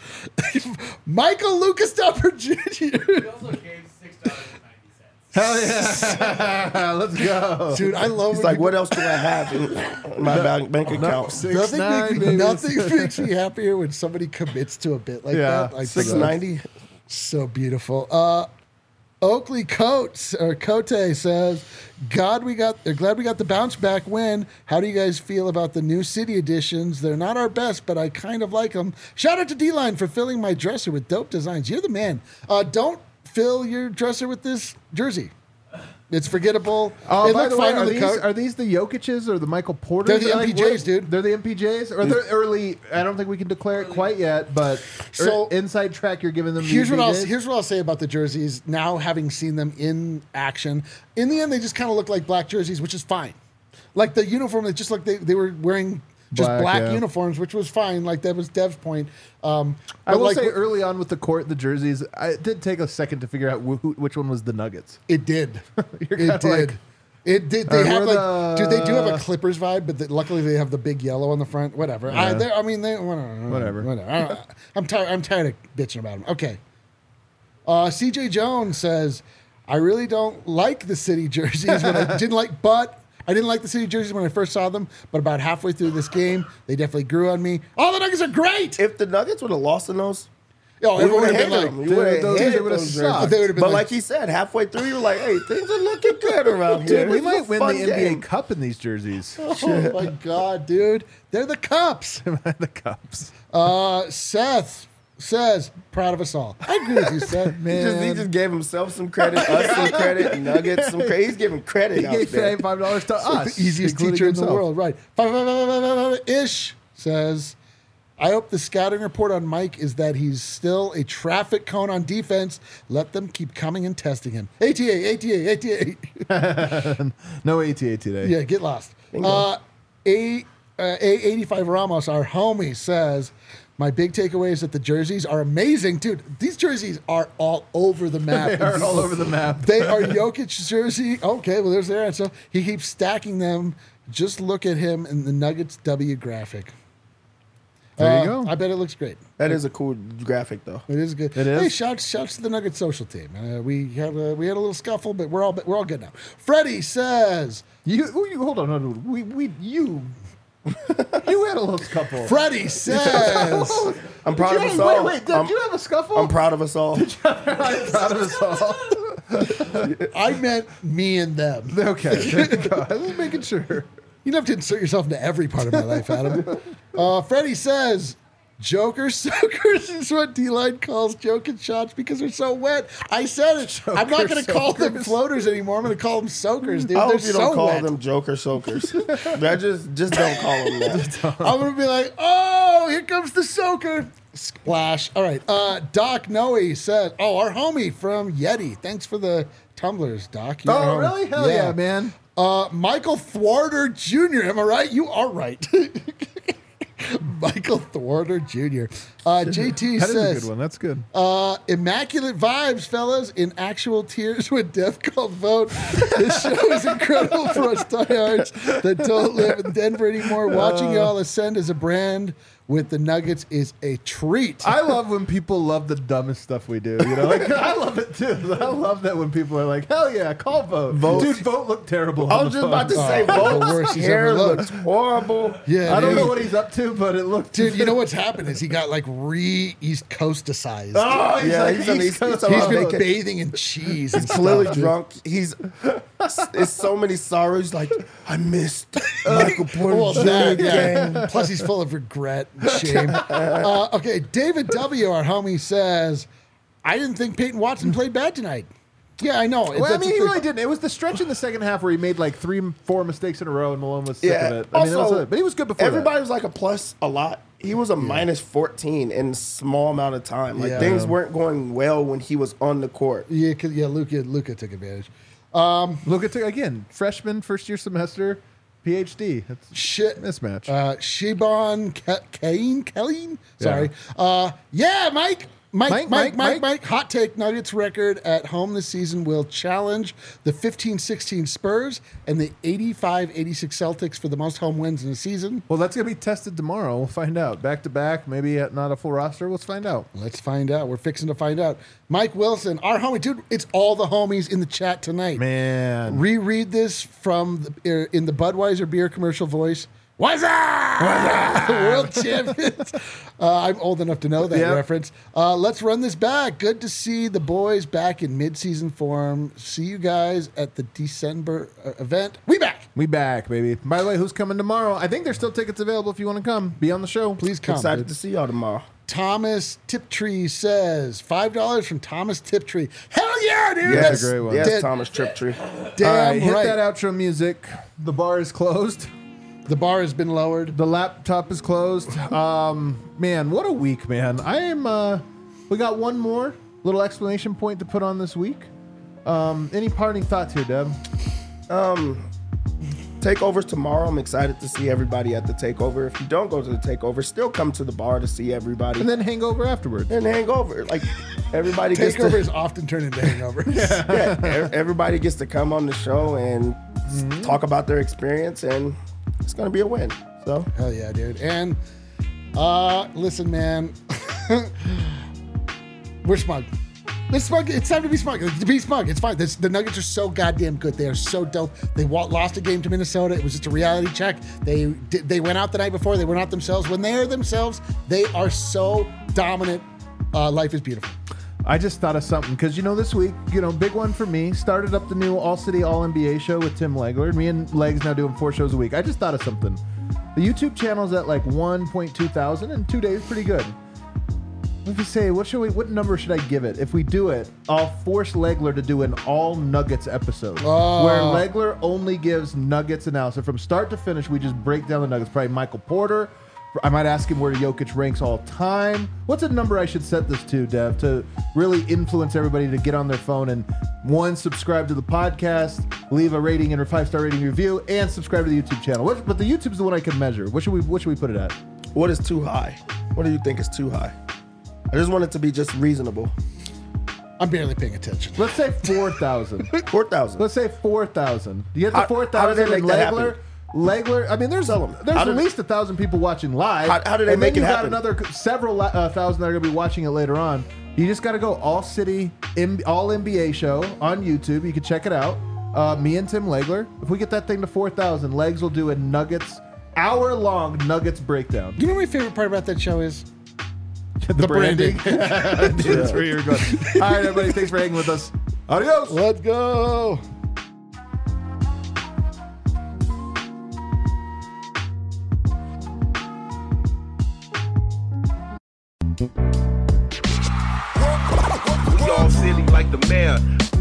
Michael Lucas Dupper Junior He also gave six dollars and ninety cents. Hell yeah! Let's go. Dude, I love He's when like, what else do I have in my bank, bank account? Six, Nothing, nine, makes me, baby. nothing makes me happier when somebody commits to a bit like Yeah, that. Like Six ninety. So beautiful. Uh, Oakley Coates or Cote says, "God, we got. They're glad we got the bounce back win. How do you guys feel about the new city editions? They're not our best, but I kind of like them. Shout out to D-Line for filling my dresser with dope designs. You're the man. Uh, don't fill your dresser with this jersey. It's forgettable. Oh, it by looked the way, fine on are the these, coat. are these the Jokic's or the Michael Porters? They're the Like, M P Js, what- dude. They're the M P Js? Or they're early, I don't think we can declare it quite yet, but So- er, inside track, you're giving them the Here's what I'll M P Js? here's what I'll say about the jerseys. Now having seen them in action, in the end they just kind of look like black jerseys, which is fine. Like the uniform, they just like they, they were wearing just Black, black, yeah. uniforms, which was fine. Like that was Dev's point. Um, I but will like, say early on with the court, the jerseys, I, it did take a second to figure out wh- who, which one was the Nuggets. it did. You're it kinda did. like, It did. They Uh, have we're like, dude. They do have a the- Clippers vibe, but they, luckily they have the big yellow on the front. Whatever. I, Yeah. they're- I mean, they whatever. Whatever. Whatever. I don't- I'm tired. I'm tired of bitching about them. Okay. Uh, C J Jones says, "I really don't like the city jerseys. When I didn't like, but I didn't like the city jerseys when I first saw them. But about halfway through this game, they definitely grew on me. All the Nuggets are great. If the Nuggets would have lost in those, Oh, we everyone would would have have been hated like, them. You would have those- hated they would've those sucked. jerseys. They would've been But like- like he said, halfway through, you were like, "Hey, things are looking good around here." Dude, we This is a might win fun the N B A game. Cup in these jerseys. oh my god, dude, they're the Cups." the Cups. Uh, Seth says, "Proud of us all." I agree with you, Seth. He just, he just gave himself some credit, us some credit, Nuggets some credit. He's giving credit He out gave there. five dollars to us. The easiest including teacher in the himself. world, right? Five, five, five, five, five, five, Ish says, "I hope the scouting report on Mike is that he's still a traffic cone on defense. Let them keep coming and testing him." A T A, A T A, A T A. No A T A today. Yeah, get lost. Uh, A uh, A eighty-five Ramos, our homie, says, "My big takeaway is that the jerseys are amazing, dude. These jerseys are all over the map. They are all over the map. They are Jokic jersey. Okay, well, there's their answer. He keeps stacking them. Just look at him in the Nuggets W graphic. There you Uh, go. I bet it looks great. That is a cool graphic, though. It is good. It is? Hey, shouts, shouts to the Nuggets social team. Uh, we had a, we had a little scuffle, but we're all we're all good now. Freddie says. You, oh, you hold on, hold on. We, we, you, you had a little scuffle. Freddie says. I'm proud of Jay, us all. wait, wait, did I'm, you have a scuffle? I'm proud of us all. I'm proud of us all. I meant me and them. Okay, there you go. I was making sure. You don't have to insert yourself into every part of my life, Adam. Uh, Freddie says, "Joker soakers" is what D-Line calls Jokic shots because they're so wet. I said it. I'm not going to call them soakers. floaters anymore. I'm going to call them soakers, dude. I They're hope you don't so call wet. them Joker soakers. That just just don't call them that. I'm going to be like, "Oh, here comes the soaker." Splash. All right. Uh, Doc Noe said, "Oh, our homie from Yeti. Thanks for the tumblers, Doc. You're Oh, our homie." really? Hell yeah, man. Uh, Michael Thwarter Junior Am I right? You are right. Michael Thwarter Junior Uh, J T That is a says, good one. That's good. Uh, immaculate vibes, fellas. In actual tears when Death called vote. This show is incredible for us diehards that don't live in Denver anymore. Watching y'all ascend as a brand with the Nuggets is a treat. I love when people love the dumbest stuff we do. You know, like I love it too. I love that when people are like, "Hell yeah, call vote, Vote. dude, vote looked terrible." I on was the just about to phone. say, Oh, the Vote's worst he's hair ever looked. looks horrible. Yeah, I don't dude. know what he's up to, but it looked. Dude, you know what's happened is he got like re East Coasticized. Oh, he's Yeah, like, he's on the East East Coast Coast. He's Oh, been okay. bathing in cheese. And He's clearly stuff, dude. drunk. He's it's so many sorrows. Like I missed Michael Porter Well, Junior that, yeah. game. Plus, he's full of regret and shame. Uh, okay, David W., our homie, says, "I didn't think Peyton Watson played bad tonight." Yeah, I know. Well, I That's mean, the he thing. really didn't. It was the stretch in the second half where he made like three, four mistakes in a row, and Malone was sick Yeah. of it. I mean, that was Also, it. But he was good before Everybody that. was like a plus a lot. He was a minus fourteen in a small amount of time. Like Yeah. things weren't going well when he was on the court. Yeah, 'cause- yeah, Luka, Luka took advantage. Look at again, freshman, first year semester. P H D. That's Shit. mismatch. Uh, Shibon Ke- Kane, Kelly? Sorry. Uh, yeah, Mike. Mike, Mike, Mike, Mike, Mike, hot take. Nuggets record at home this season will challenge the fifteen sixteen Spurs and the eighty-five eighty-six Celtics for the most home wins in the season. Well, that's going to be tested tomorrow. We'll find out. Back to back, maybe at not a full roster. Let's find out. Let's find out. We're fixing to find out. Mike Wilson, our homie. Dude, it's all the homies in the chat tonight. Man. Reread this from the, er, in the Budweiser beer commercial voice. What's up? What's up? World champions. Uh, I'm old enough to know that Yep. reference. Uh, let's run this back. Good to see the boys back in mid-season form. See you guys at the December uh, event. We back. We back, baby. By the way, who's coming tomorrow? I think there's still tickets available if you want to come. Be on the show. Please come. Excited dude. to see y'all tomorrow. Thomas Tiptree says five dollars from Thomas Tiptree. Hell yeah, dude! Yes, That's a great one. Yes, Dead- Thomas Triptree. Damn All right, hit right. that outro music. The bar is closed. The bar has been lowered. The laptop is closed. Um, man, what a week, man. I am. Uh, we got one more little explanation point to put on this week. Um, any parting thoughts here, Deb? Um, takeovers tomorrow. I'm excited to see everybody at the takeover. If you don't go to the takeover, still come to the bar to see everybody And then hangover afterwards. and hang over. Like everybody gets to, Takeovers often turn into hangovers. yeah, e- everybody gets to come on the show and s- talk about their experience, and it's gonna be a win. So Hell yeah, dude. And uh listen, man. We're smug. Let's smug. It's time to be smug. To be smug. It's fine. This, the Nuggets are so goddamn good. They are so dope. They wa- lost a game to Minnesota. It was just a reality check. They did, they went out the night before. They were not themselves. When they are themselves, they are so dominant. Uh, life is beautiful. I just thought of something because, you know, this week, you know, big one for me. Started up the new All City All N B A show with Tim Legler. Me and Legs now doing four shows a week. I just thought of something. The YouTube channel's at like one point two thousand in two days. Pretty good. If you say, what should we? What number should I give it? If we do it, I'll force Legler to do an all Nuggets episode Oh. where Legler only gives Nuggets analysis from start to finish. We just break down the Nuggets. Probably Michael Porter. I might ask him where Jokic ranks all time. What's a number I should set this to, Dev, to really influence everybody to get on their phone and, one, subscribe to the podcast, leave a rating and a five-star rating review, and subscribe to the YouTube channel. What, but the YouTube's the one I can measure. What should we What should we put it at? what is too high? What do you think is too high? I just want it to be just reasonable. I'm barely paying attention. Let's say four thousand. Four thousand. Let's say four thousand. Do you get How- to four how do they thousand in make that Legler? happen? Legler, I mean, there's Tell 'em. there's How at did- least a thousand people watching live. How- how do they and make then it you happen? got another several uh, thousand that are going to be watching it later on. You just got to go All City, M- All N B A show on YouTube. You can check it out. Uh, me and Tim Legler. If we get that thing to four thousand, Legs will do a Nuggets, hour long Nuggets breakdown. You know what my favorite part about that show is? the branding. That's where you're going. All right, everybody. Thanks for hanging with us. Adios. Let's go. We all silly like the mayor.